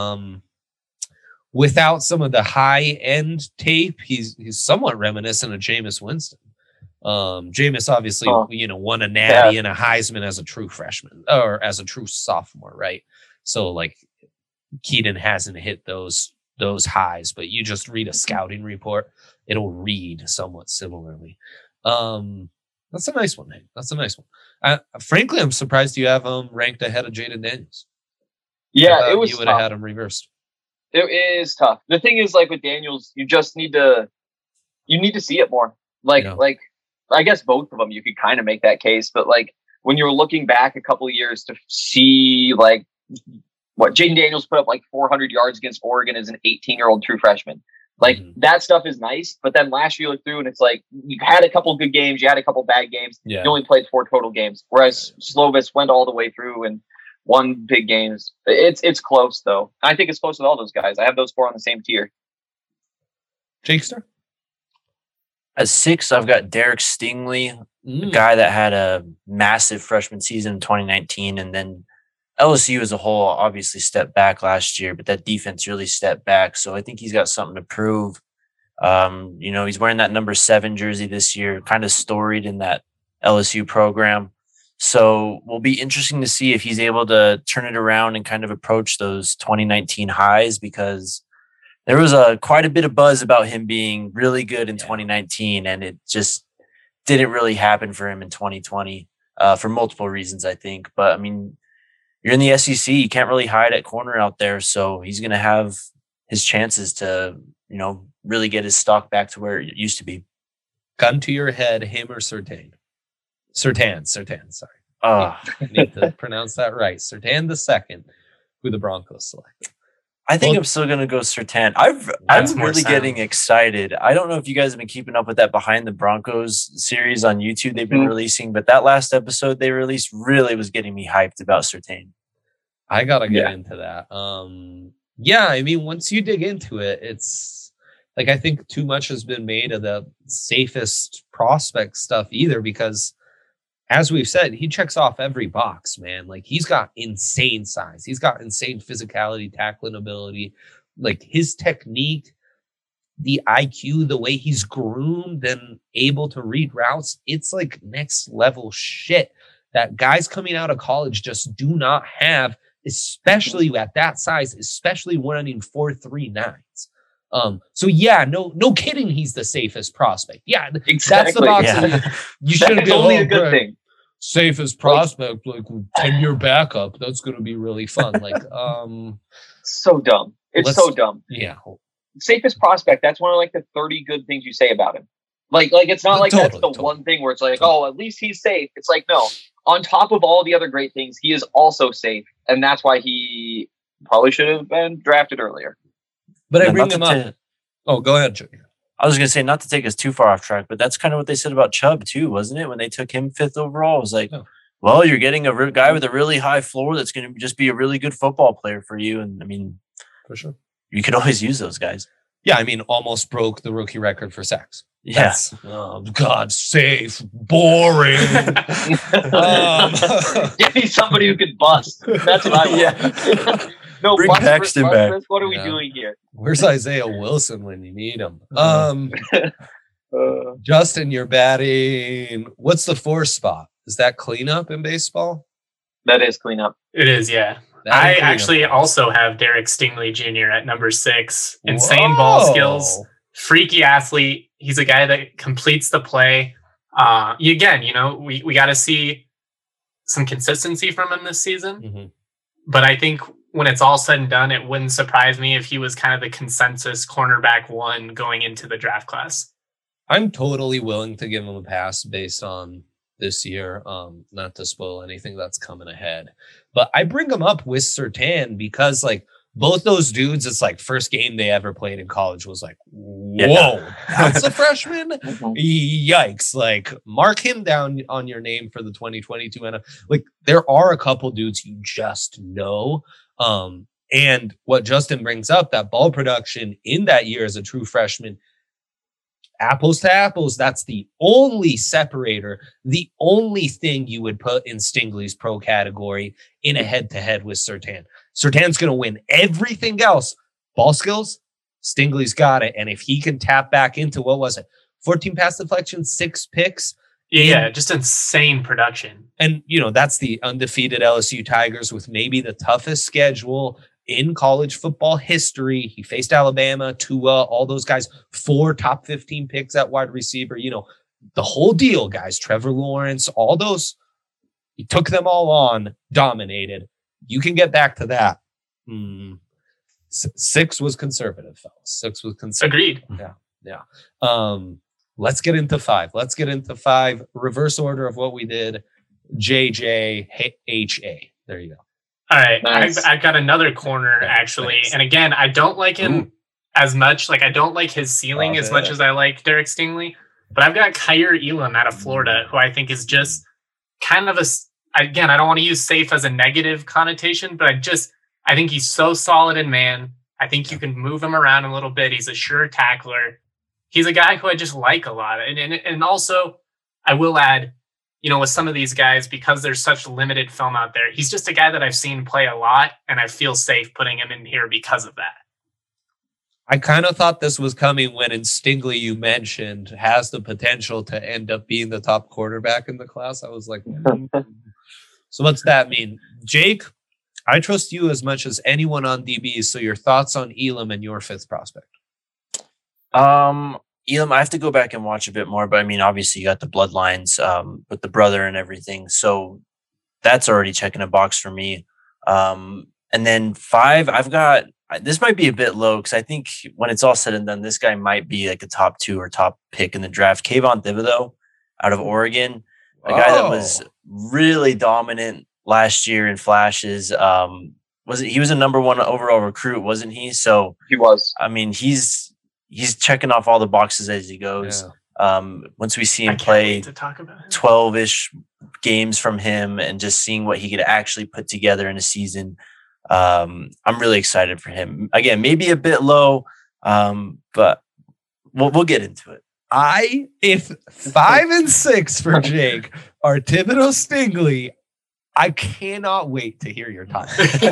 C: Without some of the high end tape, he's somewhat reminiscent of Jameis Winston. Jameis obviously, won a Natty and a Heisman as a true freshman or as a true sophomore, right? So like Keaton hasn't hit those highs, but you just read a scouting report, it'll read somewhat similarly. That's a nice one, Hank. That's a nice one. Frankly, I'm surprised you have him ranked ahead of Jaden Daniels.
A: Yeah, it was.
C: You would have had him reversed.
A: It is tough. The thing is, like with Daniels, you just need to see it more. Like I guess both of them, you could kind of make that case, but like when you're looking back a couple of years to see like what Jaden Daniels put up like 400 yards against Oregon as an 18-year-old true freshman. Like that stuff is nice, but then last year you look through and it's like you had a couple good games, you had a couple bad games. Yeah. You only played 4 total games, whereas Slovis went all the way through and won big games. It's close though. I think it's close with all those guys. I have those 4 on the same tier.
C: Jakester?
D: At 6, I've got Derek Stingley, a guy that had a massive freshman season in 2019, and then LSU as a whole obviously stepped back last year, but that defense really stepped back. So I think he's got something to prove. He's wearing that number 7 jersey this year, kind of storied in that LSU program. So will be interesting to see if he's able to turn it around and kind of approach those 2019 highs, because there was quite a bit of buzz about him being really good in 2019, and it just didn't really happen for him in 2020 for multiple reasons, I think. But I mean, you're in the SEC, you can't really hide at corner out there, so he's going to have his chances to, really get his stock back to where it used to be.
C: Gun to your head, him or Surtain? Surtain, sorry. Need to pronounce that right. Surtain II, who the Broncos selected.
D: I think I'm still going to go Surtain. I'm really getting excited. I don't know if you guys have been keeping up with that Behind the Broncos series on YouTube they've been releasing, but that last episode they released really was getting me hyped about Surtain.
C: I got to get into that. Yeah, I mean, once you dig into it, it's like I think too much has been made of the safest prospect stuff either because as we've said, he checks off every box, man. Like he's got insane size. He's got insane physicality, tackling ability, like his technique, the IQ, the way he's groomed and able to read routes. It's like next level shit that guys coming out of college just do not have, especially at that size, especially running 4.39s. So yeah, no kidding. He's the safest prospect. Yeah,
A: exactly.
C: That's the box. Yeah. You shouldn't be
A: only a good thing.
C: Safest prospect, like 10-year backup. That's going to be really fun. Like,
A: so dumb. It's so dumb.
C: Yeah.
A: Safest prospect. That's one of like the 30 good things you say about him. Like it's not like that's the one thing where it's like, oh, at least he's safe. It's like, no, on top of all the other great things, he is also safe. And that's why he probably should have been drafted earlier.
C: But I bring him up. Oh, go ahead, Junior.
D: I was going to say, not to take us too far off track, but that's kind of what they said about Chubb too, wasn't it? When they took him 5th overall, it was like, well, you're getting a guy with a really high floor that's going to just be a really good football player for you. And I mean,
C: for sure,
D: you could always use those guys.
C: Yeah, I mean, almost broke the rookie record for sacks.
D: Yes.
C: Oh, God, safe, boring.
A: Give me somebody who could bust. That's what I want. No,
D: bring Paxton back.
A: What are we doing here?
C: Where's Isaiah Wilson when you need him? Justin, you're batting. What's the 4th spot? Is that cleanup in baseball?
A: That is cleanup.
B: It is, yeah. I actually also have Derek Stingley Jr. at number 6. Insane ball skills, freaky athlete. He's a guy that completes the play. Again, we got to see some consistency from him this season. Mm-hmm. But I think when it's all said and done, it wouldn't surprise me if he was kind of the consensus cornerback 1 going into the draft class.
C: I'm totally willing to give him a pass based on this year, not to spoil anything that's coming ahead. But I bring him up with Surtain because, like, both those dudes, it's like first game they ever played in college was like, whoa, that's a freshman? Yikes. Like, mark him down on your name for the 2022. And like, there are a couple dudes you just know. And what Justin brings up, that ball production in that year as a true freshman, apples to apples, that's the only separator, the only thing you would put in Stingley's pro category in a head-to-head with Surtain. Surtain's going to win everything else. Ball skills, Stingley's got it. And if he can tap back into, 14 pass deflections, 6 picks.
B: Yeah, just insane production.
C: And, that's the undefeated LSU Tigers with maybe the toughest schedule in college football history. He faced Alabama, Tua, all those guys, 4 top 15 picks at wide receiver, the whole deal, guys. Trevor Lawrence, all those, he took them all on, dominated. You can get back to that. 6 was conservative, fellas. 6 was conservative.
B: Agreed.
C: Yeah. Let's get into 5. Reverse order of what we did. JJ, HA. There you go.
B: All right. Nice. I've got another corner, actually. Nice. And again, I don't like him as much. Like, I don't like his ceiling as much as I like Derek Stingley. But I've got Kaiir Elam out of Florida, who I think is just kind of again, I don't want to use safe as a negative connotation, but I think he's so solid in man. I think you can move him around a little bit. He's a sure tackler. He's a guy who I just like a lot. And also, I will add, with some of these guys, because there's such limited film out there, he's just a guy that I've seen play a lot, and I feel safe putting him in here because of that.
C: I kind of thought this was coming when in Stingley you mentioned has the potential to end up being the top quarterback in the class. I was like, So what's that mean? Jake, I trust you as much as anyone on DBs, so your thoughts on Elam and your 5th prospect.
D: Elam, I have to go back and watch a bit more, but I mean, obviously you got the bloodlines with the brother and everything. So that's already checking a box for me. And then 5, I've got, this might be a bit low because I think when it's all said and done, this guy might be like a top 2 or top pick in the draft. Kayvon Thibodeau out of Oregon, a guy that was really dominant last year in flashes, he was a number 1 overall recruit, wasn't he? So
A: he was.
D: I mean, he's checking off all the boxes as he goes. Once we see him play 12-ish games from him and just seeing what he could actually put together in a season, I'm really excited for him. Again, maybe a bit low, but we'll get into it.
C: If 5 and 6 for Jake are Thibodeau Stingley, I cannot wait to hear your top.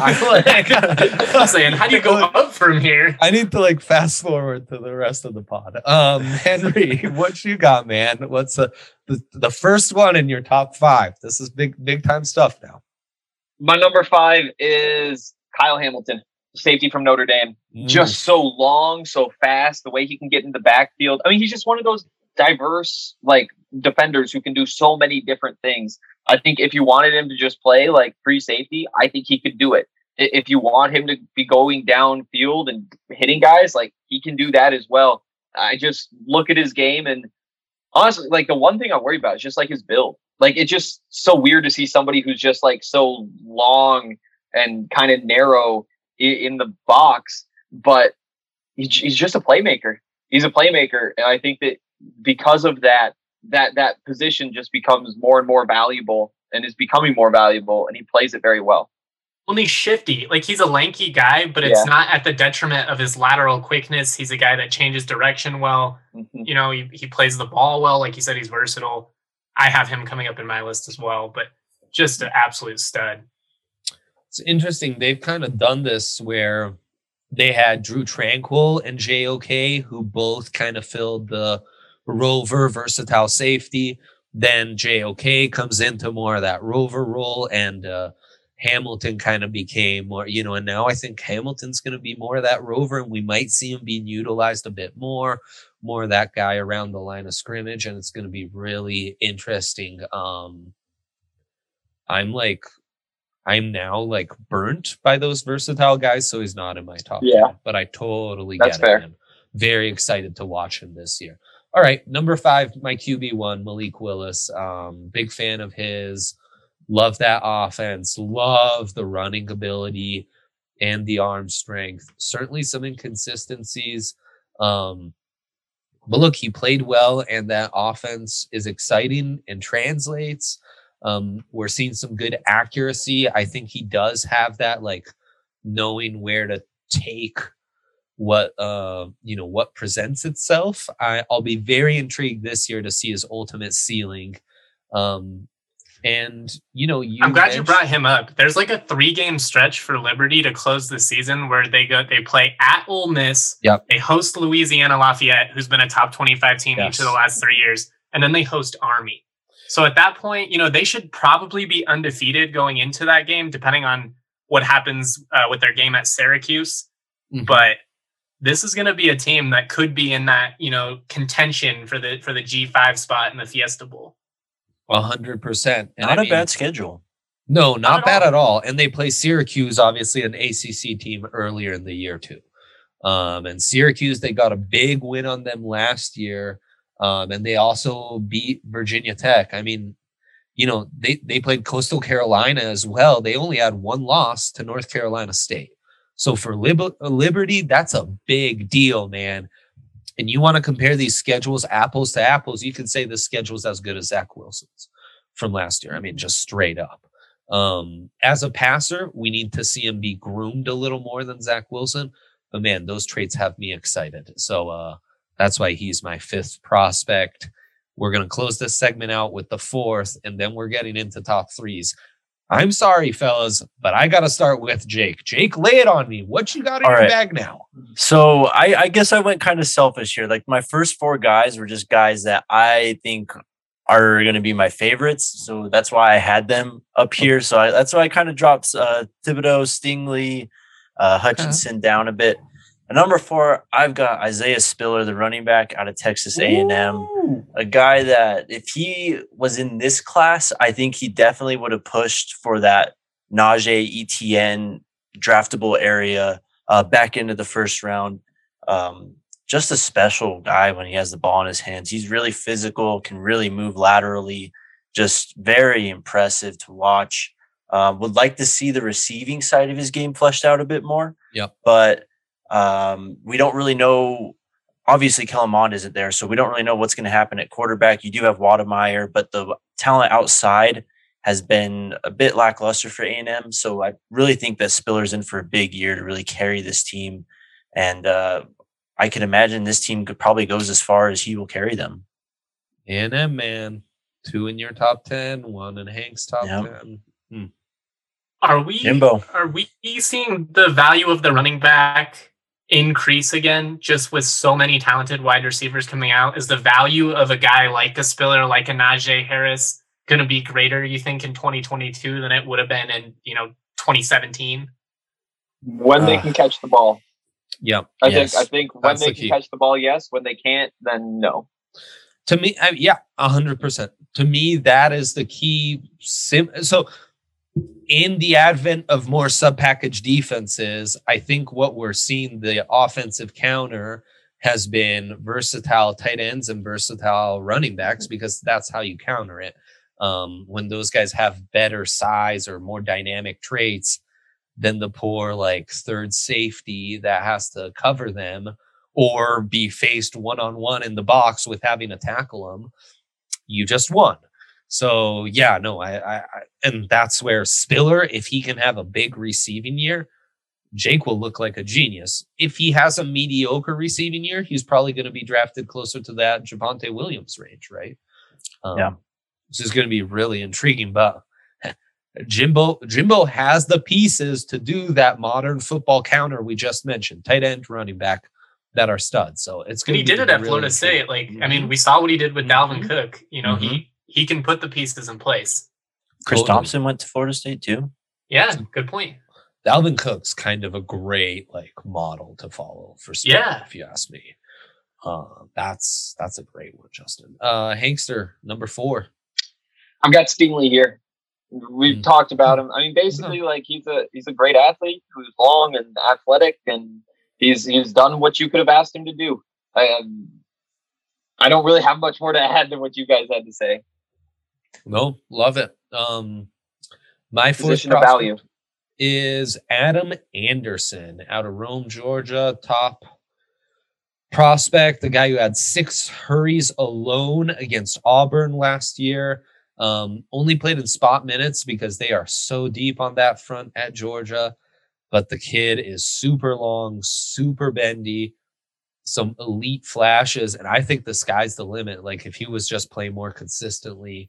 B: I'm saying, how do you go up from here?
C: I need to fast forward to the rest of the pod. Henry, what you got, man? What's the first one in your top 5? This is big time stuff now.
A: My number 5 is Kyle Hamilton, safety from Notre Dame. Just so long, so fast, the way he can get in the backfield. I mean, he's just one of those diverse defenders who can do so many different things. I think if you wanted him to just play free safety, I think he could do it. If you want him to be going downfield and hitting guys, he can do that as well. I just look at his game, and honestly, the one thing I worry about is just his build. It's just so weird to see somebody who's just so long and kind of narrow in the box, but he's just a playmaker. He's a playmaker, and I think that because of that position just becomes more and more valuable and is becoming more valuable, and he plays it very well.
B: Well, he's shifty. He's a lanky guy, but it's not at the detriment of his lateral quickness. He's a guy that changes direction well. Mm-hmm. He plays the ball well. Like you said, he's versatile. I have him coming up in my list as well, but just an absolute stud.
C: It's interesting. They've kind of done this where they had Drew Tranquill and JOK, who both kind of filled the rover versatile safety. Then JOK comes into more of that rover role, and Hamilton kind of became more, and now I think Hamilton's going to be more of that rover, and we might see him being utilized a bit more of that guy around the line of scrimmage, and it's going to be really interesting. I'm now burnt by those versatile guys, so he's not in my top 10, but I totally get it. I'm very excited to watch him this year. All right, number 5, my QB1, Malik Willis. Big fan of his. Love that offense. Love the running ability and the arm strength. Certainly some inconsistencies. But look, he played well, and that offense is exciting and translates. We're seeing some good accuracy. I think he does have that, knowing where to take what presents itself. I'll be very intrigued this year to see his ultimate ceiling. And
B: I'm glad you brought him up. There's a 3-game stretch for Liberty to close the season where they play at Ole Miss.
C: Yep.
B: They host Louisiana Lafayette, who's been a top 25 team each of the last 3 years, and then they host Army. So at that point, they should probably be undefeated going into that game, depending on what happens with their game at Syracuse. Mm-hmm. But this is going to be a team that could be in that contention for the G5 spot in the Fiesta Bowl.
C: 100%.
D: Not a bad schedule.
C: No, not bad at all. And they play Syracuse, obviously an ACC team, earlier in the year too. And Syracuse, they got a big win on them last year. And they also beat Virginia Tech. I mean, they played Coastal Carolina as well. They only had 1 loss to North Carolina State. So for Liberty, that's a big deal, man. And you want to compare these schedules apples to apples, you can say the schedule's as good as Zach Wilson's from last year. I mean, just straight up. As a passer, we need to see him be groomed a little more than Zach Wilson. But man, those traits have me excited. So that's why he's my 5th prospect. We're going to close this segment out with the 4th, and then we're getting into top 3s. I'm sorry, fellas, but I got to start with Jake. Jake, lay it on me. What you got in your bag now?
D: So I guess I went kind of selfish here. My first 4 guys were just guys that I think are going to be my favorites. So that's why I had them up here. So that's why I kind of dropped Thibodeau, Stingley, Hutchinson down a bit. At number 4, I've got Isaiah Spiller, the running back out of Texas A&M, a guy that if he was in this class, I think he definitely would have pushed for that Najee Etienne draftable area back into the first round. Just a special guy when he has the ball in his hands. He's really physical, can really move laterally, just very impressive to watch. Would like to see the receiving side of his game fleshed out a bit more.
C: Yep.
D: But we don't really know. Obviously, Kellen Mond isn't there, so we don't really know what's going to happen at quarterback. You do have Wademeyer, but the talent outside has been a bit lackluster for A&M. So I really think that Spiller's in for a big year to really carry this team. And I can imagine this team could probably goes as far as he will carry them.
C: A&M, man. 2 in your top 10, 1 in Hank's top 10.
B: Are we seeing the value of the running back increase again, just with so many talented wide receivers coming out? Is the value of a guy like a Spiller, like a Najee Harris, going to be greater, you think, in 2022 than it would have been in 2017?
A: When they can catch the ball.
C: Yep.
A: I think when That's they can catch the ball, yes. When they can't, then no.
C: To me, 100%. To me, that is the key. So in the advent of more sub-package defenses, I think what we're seeing, the offensive counter has been versatile tight ends and versatile running backs, because that's how you counter it. When those guys have better size or more dynamic traits than the poor third safety that has to cover them or be faced one-on-one in the box with having to tackle them, you just won. So I and that's where Spiller, if he can have a big receiving year, Jake will look like a genius. If he has a mediocre receiving year, he's probably going to be drafted closer to that Javonte Williams range, right? This is going to be really intriguing, but Jimbo has the pieces to do that modern football counter we just mentioned, tight end, running back, that are studs. So it's going to be.
B: He did it at Florida State. We saw what he did with Dalvin Cook. He can put the pieces in place.
D: Chris Thompson went to Florida State too.
B: Yeah, good point.
C: Dalvin Cook's kind of a great model to follow for Spiller, if you ask me. That's a great one, Justin. Hankster, number 4.
A: I've got Stingley here. We've talked about him. I mean, basically, he's a great athlete who's long and athletic, and he's done what you could have asked him to do. I don't really have much more to add than what you guys had to say.
C: No, love it. My
A: position of value
C: is Adam Anderson out of Rome, Georgia. Top prospect, the guy who had 6 hurries alone against Auburn last year. Only played in spot minutes because they are so deep on that front at Georgia. But the kid is super long, super bendy, some elite flashes, and I think the sky's the limit. If he was just playing more consistently,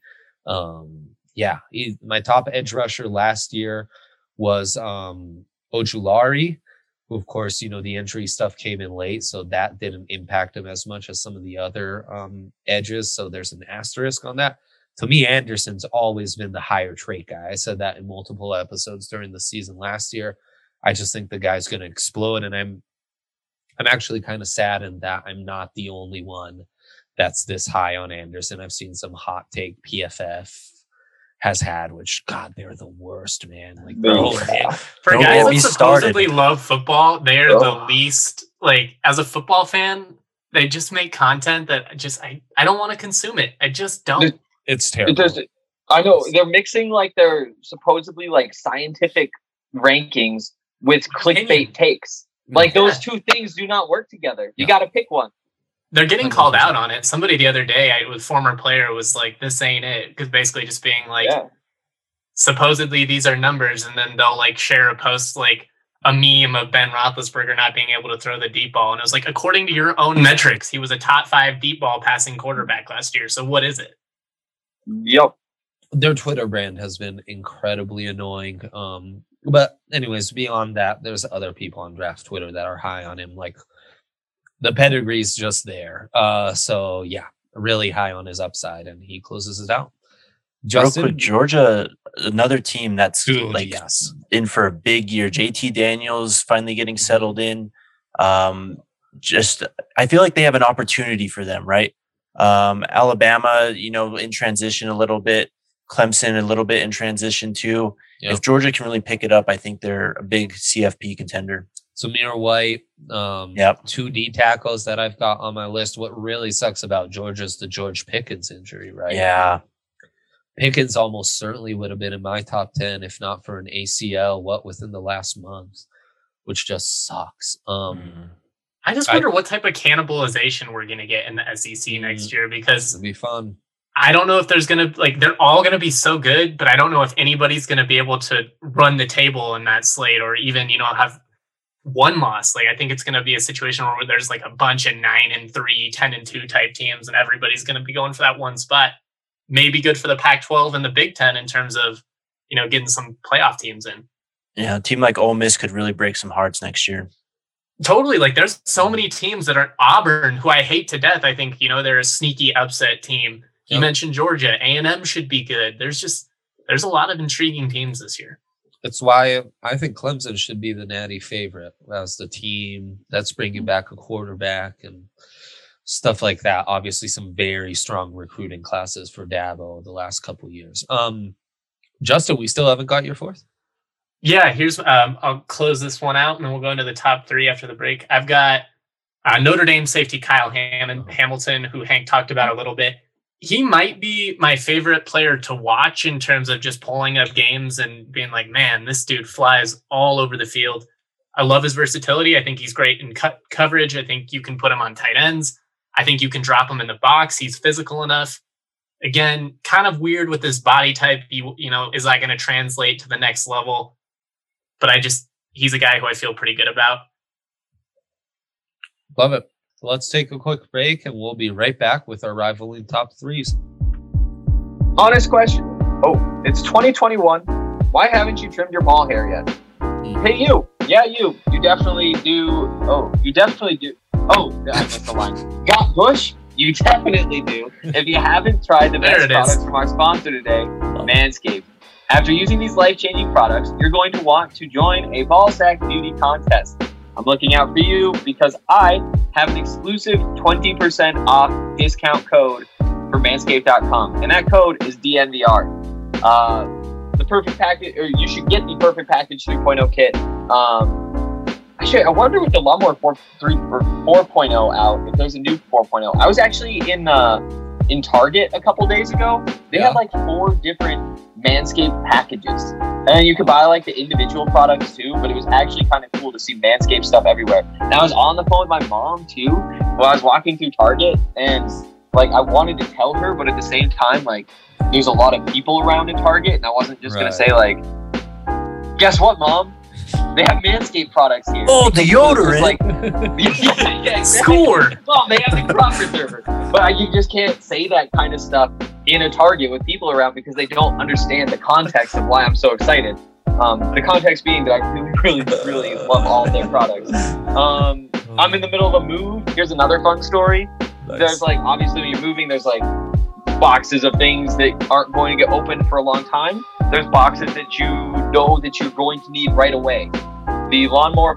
C: my top edge rusher last year was Ojulari, who, of course, the injury stuff came in late, so that didn't impact him as much as some of the other edges. So there's an asterisk on that. To me, Anderson's always been the higher trait guy. I said that in multiple episodes during the season last year. I just think the guy's going to explode, and I'm actually kind of saddened that I'm not the only one that's this high on Anderson. I've seen some hot take PFF has had, which, God, they're the worst, man.
B: For guys that supposedly love football, they're the least, as a football fan, they just make content that I don't want to consume it. I just don't.
C: It's terrible.
A: I know they're mixing their supposedly scientific rankings with clickbait takes. Those two things do not work together. You got to pick one.
B: They're getting called out on it. Somebody the other day, with former player, was like, "This ain't it," because basically just being supposedly these are numbers, and then they'll share a post a meme of Ben Roethlisberger not being able to throw the deep ball, and it was according to your own metrics, he was a top 5 deep ball passing quarterback last year. So what is it?
A: Yep.
C: Their Twitter brand has been incredibly annoying. But anyways, beyond that, there's other people on Draft Twitter that are high on him. The pedigree's just there. Really high on his upside, and he closes it out.
D: Justin, real quick, Georgia, another team that's in for a big year. JT Daniels finally getting settled in. I feel like they have an opportunity for them, right? Alabama, in transition a little bit. Clemson a little bit in transition too. Yep. If Georgia can really pick it up, I think they're a big CFP contender.
C: Zamir White, 2 D tackles that I've got on my list. What really sucks about Georgia is the George Pickens injury, right?
D: Yeah.
C: Pickens almost certainly would have been in my top 10 if not for an ACL, within the last month, which just sucks.
B: I just wonder what type of cannibalization we're going to get in the SEC next year, because
C: it'll be fun.
B: I don't know if there's going to, like, they're all going to be so good, but I don't know if anybody's going to be able to run the table in that slate or even, have one loss. Like, I think it's going to be a situation where there's like a bunch of 9-3, 10-2 type teams, and everybody's going to be going for that one spot. Maybe good for the Pac-12 and the Big Ten in terms of, getting some playoff teams in.
D: Yeah, a team like Ole Miss could really break some hearts next year. Totally.
B: Like, there's so many teams that are Auburn, who I hate to death. I think, they're a sneaky upset team. You mentioned Georgia. A&M should be good. There's a lot of intriguing teams this year.
C: That's why I think Clemson should be the natty favorite as the team that's bringing back a quarterback and stuff like that. Obviously, some very strong recruiting classes for Dabo the last couple of years. Justin, we still haven't got your fourth?
B: Yeah, here's I'll close this one out, and then we'll go into the top three after the break. I've got Notre Dame safety Kyle Hamilton, who Hank talked about a little bit. He might be my favorite player to watch in terms of just pulling up games and being like, man, this dude flies all over the field. I love his versatility. I think he's great in coverage. I think you can put him on tight ends. I think you can drop him in the box. He's physical enough. Again, kind of weird with his body type. Is that going to translate to the next level? But he's a guy who I feel pretty good about.
C: Love it. Let's take a quick break and we'll be right back with our rivaling top threes.
A: Honest question. Oh, it's 2021. Why haven't you trimmed your ball hair yet? Hey, you. Yeah, you. You definitely do. Oh, you definitely do. Oh, I missed the line. Got Bush? You definitely do. If you haven't tried the best products from our sponsor today, Manscaped. After using these life-changing products, you're going to want to join a ball sack beauty contest. I'm looking out for you because I have an exclusive 20% off discount code for manscaped.com, and that code is DNVR. The perfect package, or you should get the perfect package 3.0 kit. Actually, I wonder with the Lawnmower 4.0 out, if there's a new 4.0. I was actually in Target a couple days ago. They had like 4 different Manscaped packages, and you could buy like the individual products too, but it was actually kind of cool to see Manscaped stuff everywhere. And I was on the phone with my mom too while I was walking through Target, and like I wanted to tell her, but at the same time, like there's a lot of people around in Target, and I wasn't just gonna say like, guess what, Mom? They have Manscaped products here.
D: Oh, deodorant!
A: Like, yeah, exactly.
B: Scored.
A: Mom, they have the crop preserver. But you just can't say that kind of stuff in a Target with people around because they don't understand the context of why I'm so excited. The context being that I really love all of their products. I'm in the middle of a move. Here's another fun story. Nice. There's like, obviously when you're moving, there's like boxes of things that aren't going to get opened for a long time. There's boxes that you know that you're going to need right away. The Lawnmower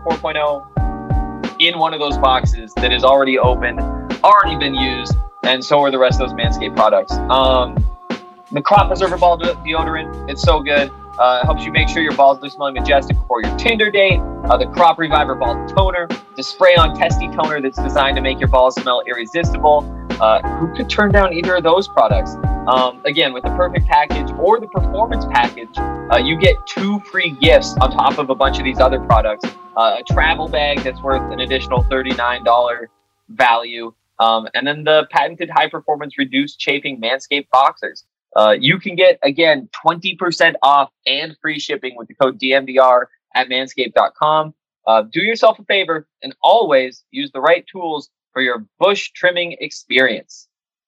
A: 4.0 in one of those boxes that is already opened, already been used, and so are the rest of those Manscaped products. The Crop Preserver Ball Deodorant, it's so good. It helps you make sure your balls are smelling majestic before your Tinder date. The Crop Reviver Ball Toner, the spray-on testy toner that's designed to make your balls smell irresistible. Who could turn down either of those products? Again, with the Perfect Package or the Performance Package, you get 2 free gifts on top of a bunch of these other products. A travel bag that's worth an additional $39 value. And then the patented high-performance reduced chafing Manscaped boxers. You can get, again, 20% off and free shipping with the code DMVR at manscaped.com. Do yourself a favor and always use the right tools for your bush trimming experience.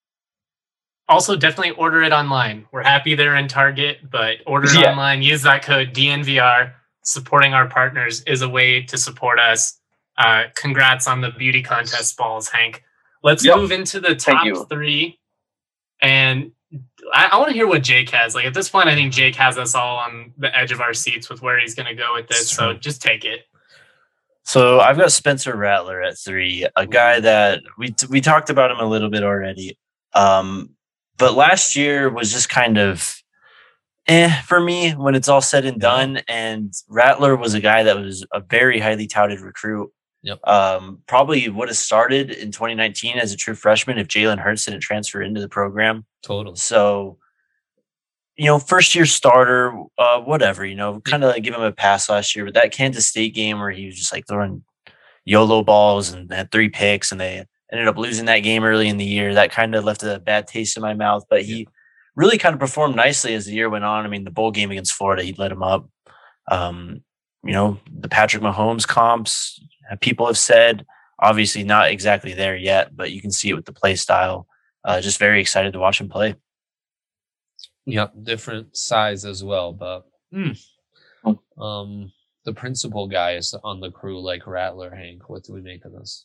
B: Also, definitely order it online. We're happy they're in Target, but order it online. Use that code DNVR. Supporting our partners is a way to support us. Congrats on the beauty contest balls, Hank. Let's move into the top 3. And I want to hear what Jake has. Like at this point, I think Jake has us all on the edge of our seats with where he's going to go with this. So just take it.
D: So I've got Spencer Rattler at 3, a guy that we talked about him a little bit already. But last year was just kind of for me when it's all said and done. And Rattler was a guy that was a very highly touted recruit.
C: Yep.
D: Probably would have started in 2019 as a true freshman if Jalen Hurts didn't transfer into the program.
C: Totally.
D: So first year starter, whatever, kind of give him a pass last year. But that Kansas State game where he was just like throwing YOLO balls and had 3 picks, and they ended up losing that game early in the year, that kind of left a bad taste in my mouth. But he really kind of performed nicely as the year went on. I mean, the bowl game against Florida, he lit him up. The Patrick Mahomes comps, people have said, obviously not exactly there yet, but you can see it with the play style. Just very excited to watch him play.
C: Yep, different size as well, but the principal guy is on the crew like Rattler. Hank, what do we make of this?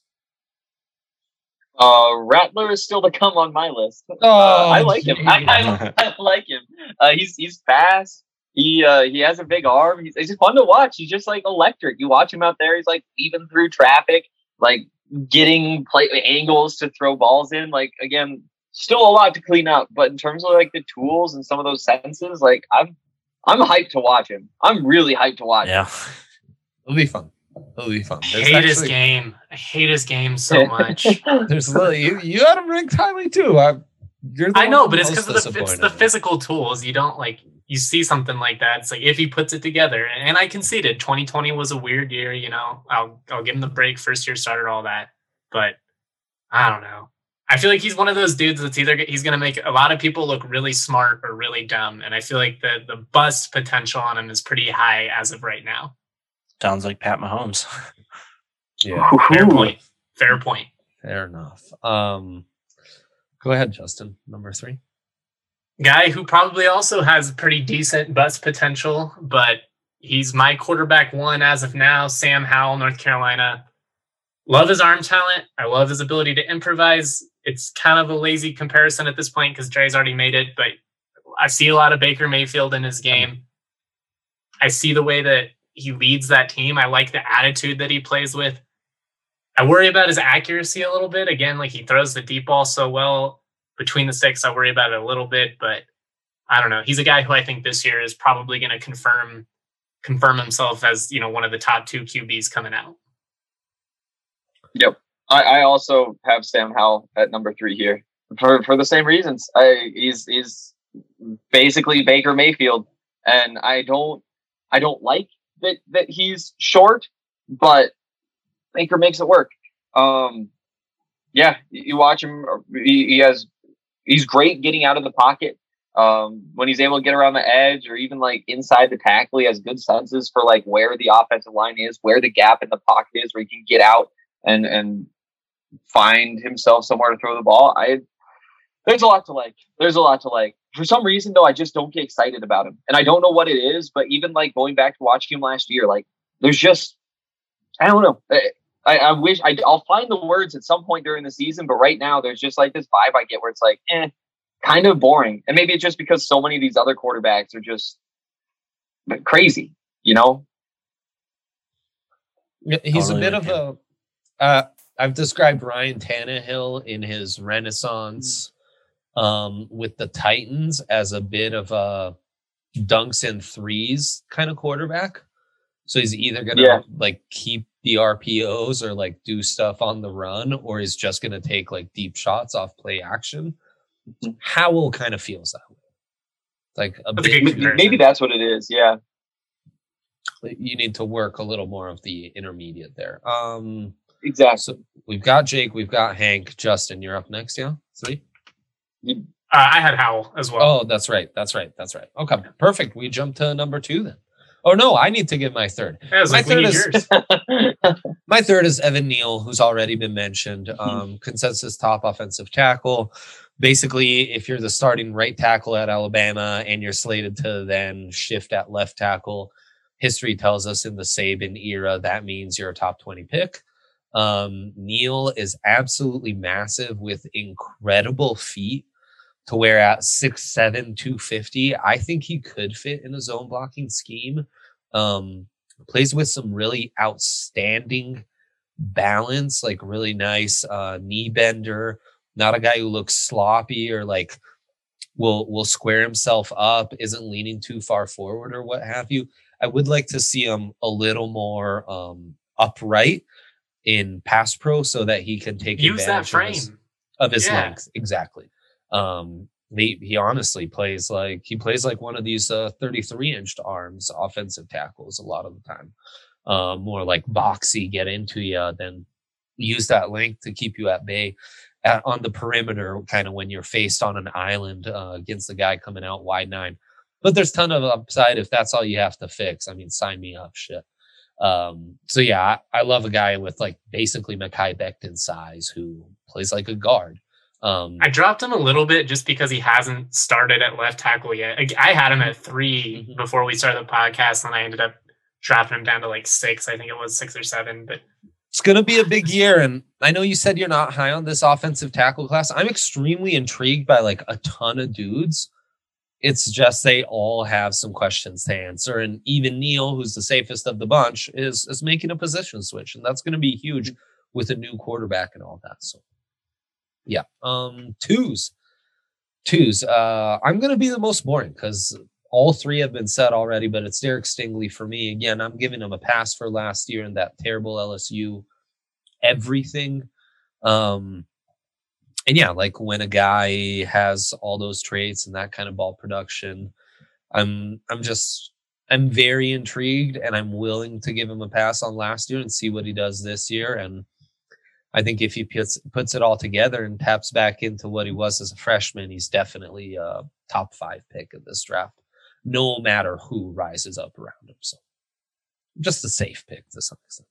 A: Rattler is still to come on my list. I like him. I like him. He's fast. He has a big arm. He's just fun to watch. He's just like electric. You watch him out there. He's like weaving through traffic, like getting angles to throw balls in. Like, again, still a lot to clean up, but in terms of like the tools and some of those senses, like I'm hyped to watch him. I'm really hyped to watch him.
C: It'll be fun.
B: I hate his game. I hate his game so much.
C: There's you had him ranked highly too.
B: I know, but it's because of the physical tools. You don't you see something like that. It's like if he puts it together, and I conceded 2020 was a weird year. I'll give him the break. First year starter, all that, but I don't know. I feel like he's one of those dudes that's either he's going to make a lot of people look really smart or really dumb. And I feel like the bust potential on him is pretty high as of right now.
D: Sounds like Pat Mahomes.
C: Yeah.
B: Fair point.
C: Fair enough. Go ahead, Justin. Number 3.
B: Guy who probably also has pretty decent bust potential, but he's my quarterback 1 as of now, Sam Howell, North Carolina. Love his arm talent. I love his ability to improvise. It's kind of a lazy comparison at this point because Dre's already made it, but I see a lot of Baker Mayfield in his game. I see the way that he leads that team. I like the attitude that he plays with. I worry about his accuracy a little bit. Again, like he throws the deep ball so well between the sticks. I worry about it a little bit, but I don't know. He's a guy who I think this year is probably going to confirm himself as, one of the top 2 QBs coming out.
A: Yep. I also have Sam Howell at number 3 here for the same reasons. He's basically Baker Mayfield, and I don't like that he's short, but Baker makes it work. You watch him. He's great getting out of the pocket. When he's able to get around the edge or even like inside the tackle, he has good senses for like where the offensive line is, where the gap in the pocket is, where he can get out and find himself somewhere to throw the ball. There's a lot to like. For some reason, though, I just don't get excited about him. And I don't know what it is, but even like going back to watching him last year, like there's just, I don't know. I wish I'll find the words at some point during the season, but right now there's just like this vibe I get where it's like, kind of boring. And maybe it's just because so many of these other quarterbacks are just crazy,
C: He's a bit of a, I've described Ryan Tannehill in his renaissance with the Titans as a bit of a dunks and threes kind of quarterback. So he's either going to like keep the RPOs or like do stuff on the run, or he's just going to take like deep shots off play action. Howell kind of feels that way. Like
A: maybe that's what it is. Yeah.
C: You need to work a little more of the intermediate there.
A: Exactly.
C: So we've got Jake, we've got Hank. Justin, you're up next. Yeah. 3.
B: I had Howell as well.
C: Oh, that's right. Okay, perfect. We jump to number 2 then. Oh no, I need to give my third. My third is Evan Neal, who's already been mentioned. Consensus top offensive tackle. Basically, if you're the starting right tackle at Alabama and you're slated to then shift at left tackle, history tells us in the Saban era that means you're a top 20 pick. Neal is absolutely massive with incredible feet, to where at 6'7", 250, I think he could fit in a zone blocking scheme. Plays with some really outstanding balance, like really nice knee bender. Not a guy who looks sloppy or like will square himself up, isn't leaning too far forward or what have you. I would like to see him a little more upright in pass pro so that he can take
B: advantage
C: of his length. Exactly. he honestly plays like one of these 33-inch arms offensive tackles a lot of the time. More like boxy, get into you, than use that length to keep you at bay on the perimeter, kind of when you're faced on an island against the guy coming out wide 9. But there's ton of upside if that's all you have to fix. I mean, sign me up, shit. So yeah, I love a guy with like basically Mekhi Becton size who plays like a guard.
B: I dropped him a little bit just because he hasn't started at left tackle yet. I had him at 3 before we started the podcast, and I ended up dropping him down to like 6. I think it was 6 or 7, but
C: it's going to be a big year. And I know you said you're not high on this offensive tackle class. I'm extremely intrigued by like a ton of dudes. It's just they all have some questions to answer. And even Neil, who's the safest of the bunch, is making a position switch. And that's going to be huge with a new quarterback and all that. So, yeah. Twos. I'm going to be the most boring because all 3 have been said already, but it's Derek Stingley for me. Again, I'm giving him a pass for last year and that terrible LSU everything. And yeah, like when a guy has all those traits and that kind of ball production, I'm very intrigued, and I'm willing to give him a pass on last year and see what he does this year. And I think if he puts it all together and taps back into what he was as a freshman, he's definitely a top 5 pick of this draft, no matter who rises up around him. So just a safe pick to some extent.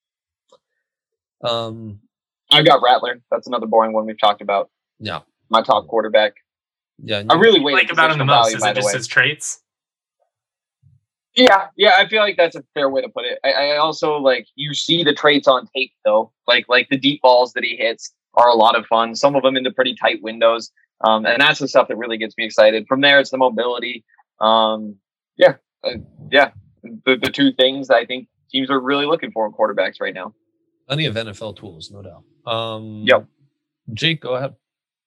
A: I've got Rattler. That's another boring one we've talked about.
C: Yeah.
A: My top quarterback.
C: Yeah.
A: I really
B: what do you like about him the most? Is it just his traits?
A: Yeah, I feel like that's a fair way to put it. I also like you see the traits on tape though. Like the deep balls that he hits are a lot of fun. Some of them into pretty tight windows. And that's the stuff that really gets me excited. From there, it's the mobility. The 2 things that I think teams are really looking for in quarterbacks right now.
C: Plenty of NFL tools, no doubt.
A: Yep.
C: Jake, go ahead.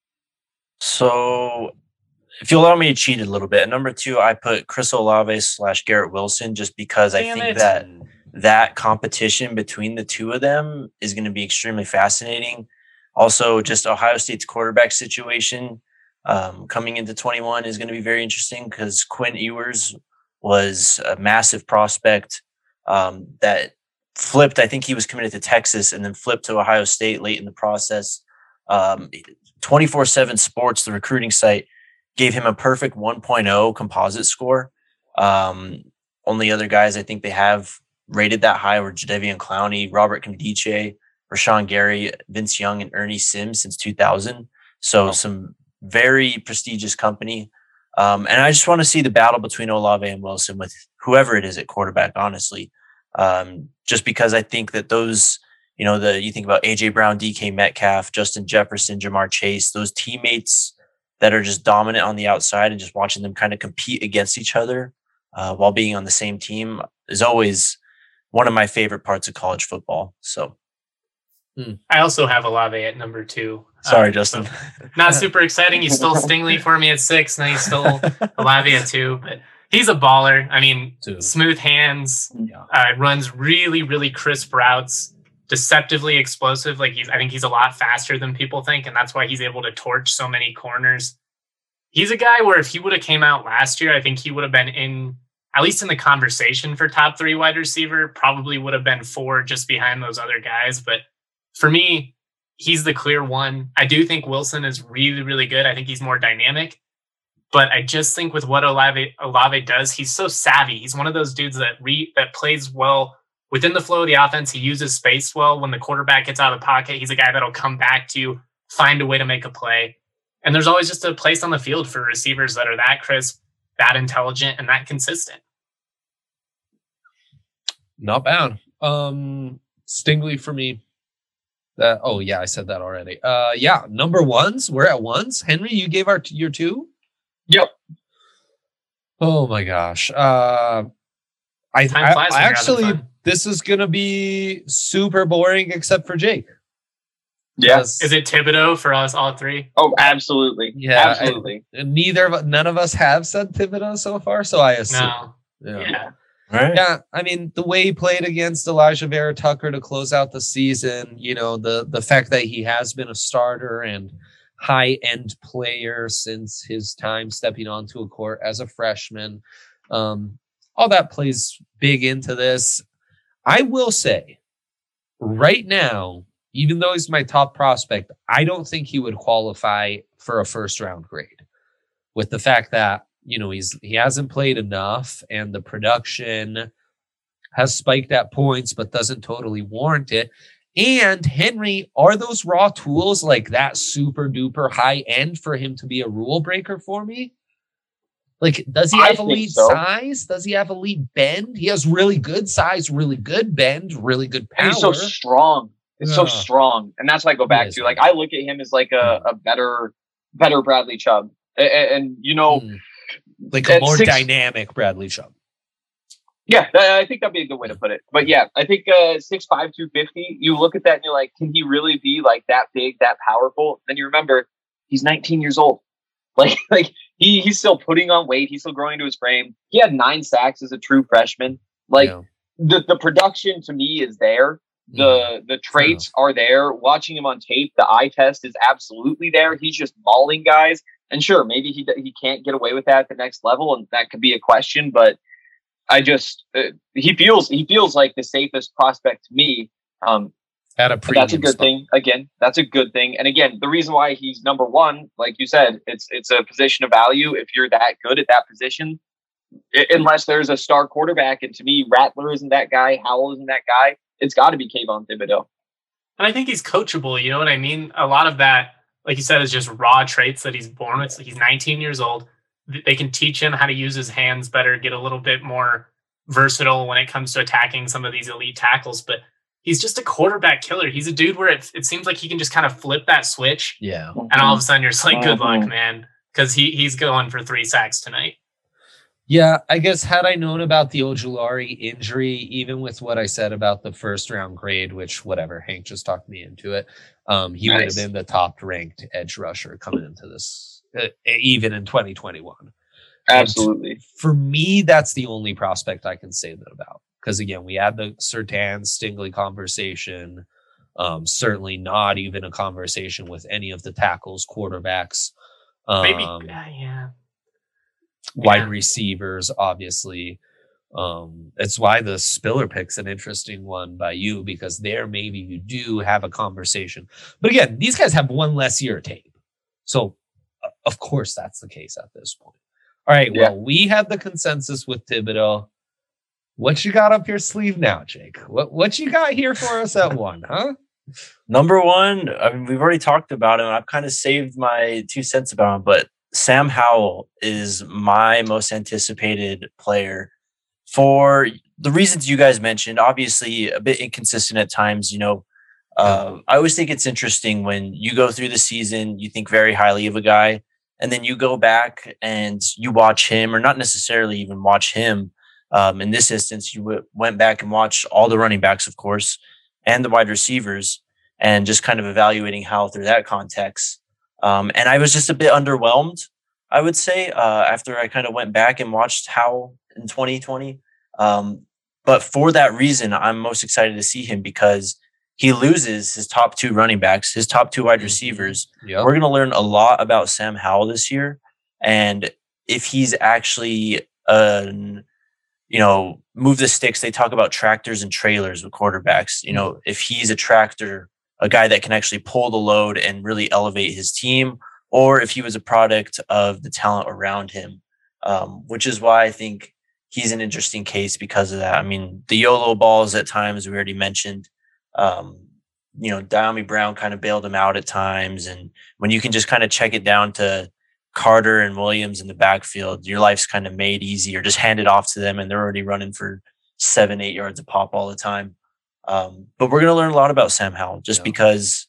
D: So if you allow me to cheat a little bit, at number 2, I put Chris Olave / Garrett Wilson, just because I think that competition between the 2 of them is going to be extremely fascinating. Also, just Ohio State's quarterback situation coming into 21 is going to be very interesting because Quinn Ewers was a massive prospect that flipped. I think he was committed to Texas and then flipped to Ohio State late in the process. 24/7 Sports, the recruiting site, gave him a perfect 1.0 composite score. Only other guys I think they have rated that high were Jadeveon Clowney, Robert Nkemdiche, Rashawn Gary, Vince Young, and Ernie Sims since 2000. So some very prestigious company. And I just want to see the battle between Olave and Wilson with whoever it is at quarterback, honestly. Just because I think that those, you think about AJ Brown, DK Metcalf, Justin Jefferson, Jamar Chase, those teammates that are just dominant on the outside, and just watching them kind of compete against each other while being on the same team is always one of my favorite parts of college football. So
B: I also have Olave at number 2.
D: Sorry, Justin.
B: So not super exciting. You stole Stingley for me at 6. Now you stole Olave at 2, but he's a baller. I mean, smooth hands, runs really, really crisp routes, deceptively explosive. Like I think he's a lot faster than people think, and that's why he's able to torch so many corners. He's a guy where if he would have came out last year, I think he would have been at least in the conversation for top 3 wide receiver, probably would have been 4 just behind those other guys. But for me, he's the clear one. I do think Wilson is really, really good. I think he's more dynamic. But I just think with what Olave does, he's so savvy. He's one of those dudes that plays well within the flow of the offense. He uses space well. When the quarterback gets out of the pocket, he's a guy that'll come back to you, find a way to make a play. And there's always just a place on the field for receivers that are that crisp, that intelligent, and that consistent.
C: Not bad. Stingley for me. I said that already. Number 1s. We're at 1s. Henry, you gave your 2?
A: Yep.
C: Oh my gosh. I actually, this is going to be super boring except for Jake.
A: Yes.
B: Is it Thibodeau for us all 3?
A: Oh, absolutely.
C: Yeah.
A: Absolutely.
C: None of us have said Thibodeau so far, so I assume.
B: No. Yeah.
C: Right. Yeah, I mean, the way he played against Elijah Vera Tucker to close out the season, the fact that he has been a starter and high-end player since his time stepping onto a court as a freshman. All that plays big into this. I will say, right now, even though he's my top prospect, I don't think he would qualify for a first-round grade. With the fact that, he hasn't played enough and the production has spiked at points but doesn't totally warrant it. And Henry, are those raw tools like that super duper high end for him to be a rule breaker for me? Like, does he have elite size? Does he have elite bend? He has really good size, really good bend, really good power.
A: And he's so strong. It's so strong. And that's what I go back to. Like, I look at him as like a better Bradley Chubb. And
C: like a more dynamic Bradley Chubb.
A: Yeah, I think that'd be a good way to put it. But yeah, I think 6'5", 250, you look at that and you're like, can he really be like that big, that powerful? Then you remember he's 19 years old. Like he's still putting on weight. He's still growing into his frame. He had 9 sacks as a true freshman. Like the production to me is there. The traits are there. Watching him on tape, the eye test is absolutely there. He's just mauling guys. And sure, maybe he can't get away with that at the next level, and that could be a question. But I just he feels like the safest prospect to me.
C: At a premium
A: that's a good thing. Again, that's a good thing. And again, the reason why he's number one, like you said, it's a position of value. If you're that good at that position, unless there's a star quarterback, and to me, Rattler isn't that guy, Howell isn't that guy. It's got to be Kayvon Thibodeau.
B: And I think he's coachable. You know what I mean? A lot of that, like you said, is just raw traits that he's born with. He's 19 years old. They can teach him how to use his hands better, get a little bit more versatile when it comes to attacking some of these elite tackles. But he's just a quarterback killer. He's a dude where it seems like he can just kind of flip that switch.
C: Yeah.
B: And all of a sudden you're just like, good luck, man. Because he's going for 3 sacks tonight.
C: Yeah, I guess had I known about the Ojulari injury, even with what I said about the first round grade, which whatever, Hank just talked me into it, he would have been the top ranked edge rusher coming into this, even in 2021.
A: Absolutely.
C: And for me, that's the only prospect I can say that about. Because again, we had the Surtain Stingley conversation. Certainly not even a conversation with any of the tackles, quarterbacks.
B: Maybe,
C: wide receivers, obviously. It's why the Spiller pick's an interesting one by you, because there maybe you do have a conversation. But again, these guys have one less year of tape. So, of course, that's the case at this point. All right, well, we had the consensus with Thibodeau. What you got up your sleeve now, Jake? What you got here for us at 1, huh?
D: Number 1, I mean, we've already talked about him. I've kind of saved my 2 cents about him, but Sam Howell is my most anticipated player for the reasons you guys mentioned. Obviously, a bit inconsistent at times. I always think it's interesting when you go through the season, you think very highly of a guy, and then you go back and you watch him, or not necessarily even watch him. In this instance, you went back and watched all the running backs, of course, and the wide receivers, and just kind of evaluating Howell through that context. And I was just a bit underwhelmed, I would say, after I kind of went back and watched Howell in 2020. But for that reason, I'm most excited to see him, because he loses his top 2 running backs, his top 2 wide receivers. Yep. We're going to learn a lot about Sam Howell this year. And if he's actually, move the sticks, they talk about tractors and trailers with quarterbacks. If he's a tractor, a guy that can actually pull the load and really elevate his team, or if he was a product of the talent around him, which is why I think he's an interesting case because of that. I mean, the YOLO balls at times, we already mentioned, Dyami Brown kind of bailed him out at times. And when you can just kind of check it down to Carter and Williams in the backfield, your life's kind of made easy, or just hand it off to them and they're already running for 7-8 yards a pop all the time. But we're going to learn a lot about Sam Howell because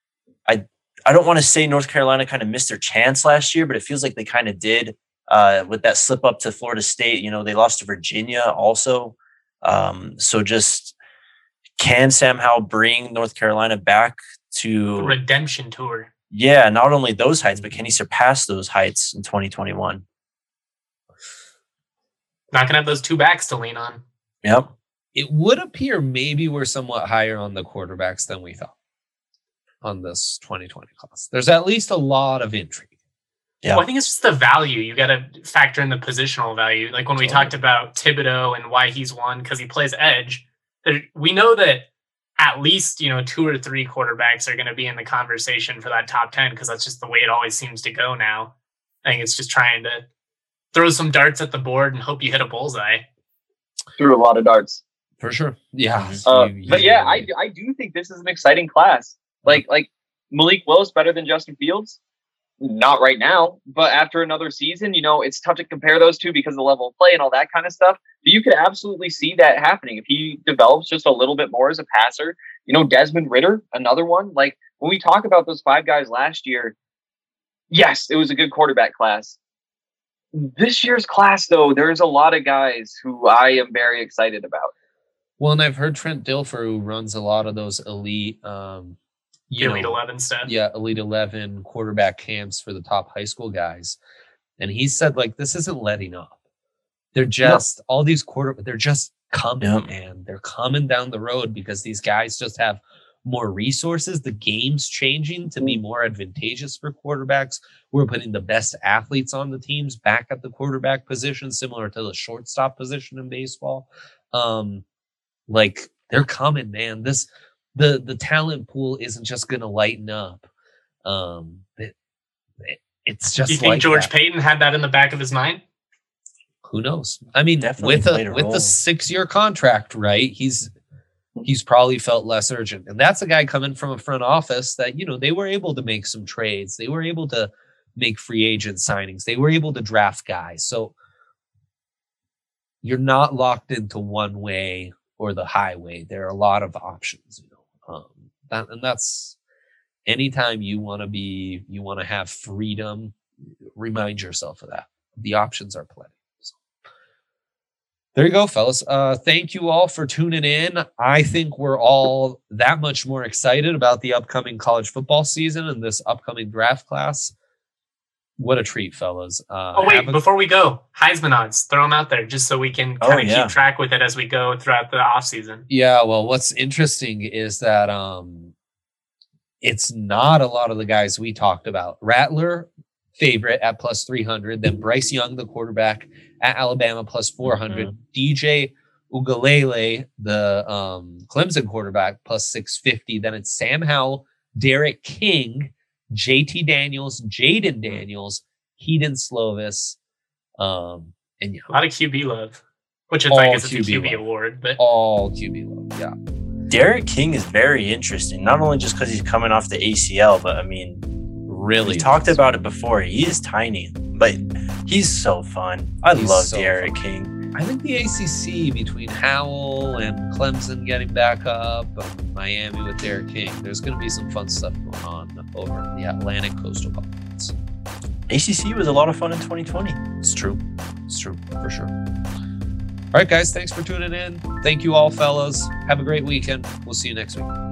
D: I don't want to say North Carolina kind of missed their chance last year, but it feels like they kind of did with that slip up to Florida State. They lost to Virginia also. So just, can Sam Howell bring North Carolina back to
B: the redemption tour?
D: Yeah, not only those heights, but can he surpass those heights in 2021?
B: Not going to have those 2 backs to lean on.
D: Yep.
C: It would appear maybe we're somewhat higher on the quarterbacks than we thought. on this 2020 class. There's at least a lot of intrigue.
B: Yeah, well, I think it's just the value. You got to factor in the positional value. Like when we talked about Thibodeau and why he's won because he plays edge. We know that at least 2 or 3 quarterbacks are going to be in the conversation for that top 10 because that's just the way it always seems to go now. I think it's just trying to throw some darts at the board and hope you hit a bullseye.
A: Threw a lot of darts
C: for sure. Yeah,
A: but yeah, I do think this is an exciting class. Like Malik Willis better than Justin Fields. Not right now, but after another season, it's tough to compare those two because of the level of play and all that kind of stuff. But you could absolutely see that happening if he develops just a little bit more as a passer. Desmond Ridder, another one. Like when we talk about those 5 guys last year, yes, it was a good quarterback class. This year's class, though, there's a lot of guys who I am very excited about.
C: Well, and I've heard Trent Dilfer, who runs a lot of those elite
B: Elite 11 stuff.
C: Yeah, Elite 11 quarterback camps for the top high school guys. And he said, this isn't letting up. They're just, all these they're just coming, man. They're coming down the road because these guys just have more resources. The game's changing to be more advantageous for quarterbacks. We're putting the best athletes on the teams back at the quarterback position, similar to the shortstop position in baseball. They're coming, man. The talent pool isn't just going to lighten up. It's just.
B: Do you think George Payton had that in the back of his mind?
C: Who knows? I mean,
D: Definitely
C: with the 6-year contract, right? He's probably felt less urgent, and that's a guy coming from a front office that they were able to make some trades. They were able to make free agent signings. They were able to draft guys. So you're not locked into one way or the highway. There are a lot of options. That's anytime you want to have freedom, remind yourself of that. The options are plenty. So, there you go, fellas. Thank you all for tuning in. I think we're all that much more excited about the upcoming college football season and this upcoming draft class. What a treat, fellas.
B: Before we go, Heisman odds, throw them out there just so we can kind of keep track with it as we go throughout the offseason.
C: Yeah, well, what's interesting is that it's not a lot of the guys we talked about. Rattler, favorite at plus 300. Then Bryce Young, the quarterback at Alabama, plus 400. Mm-hmm. DJ Ugalele, the Clemson quarterback, plus 650. Then it's Sam Howell, Derek King, JT Daniels, Jaden Daniels, Keaton Slovis, and
B: a lot of QB love, which is I guess it's a QB award, but
C: all QB love. Yeah,
D: Derek King is very interesting. Not only just because he's coming off the ACL, but I mean,
C: really,
D: we talked about it before. He is tiny, but he's so fun. I love Derek King.
C: I think the ACC between Howell and Clemson getting back up, and Miami with Derek King, there's going to be some fun stuff going on over in the Atlantic Coastal Conference.
D: ACC was a lot of fun in 2020.
C: It's true, for sure. All right, guys, thanks for tuning in. Thank you all, fellas. Have a great weekend. We'll see you next week.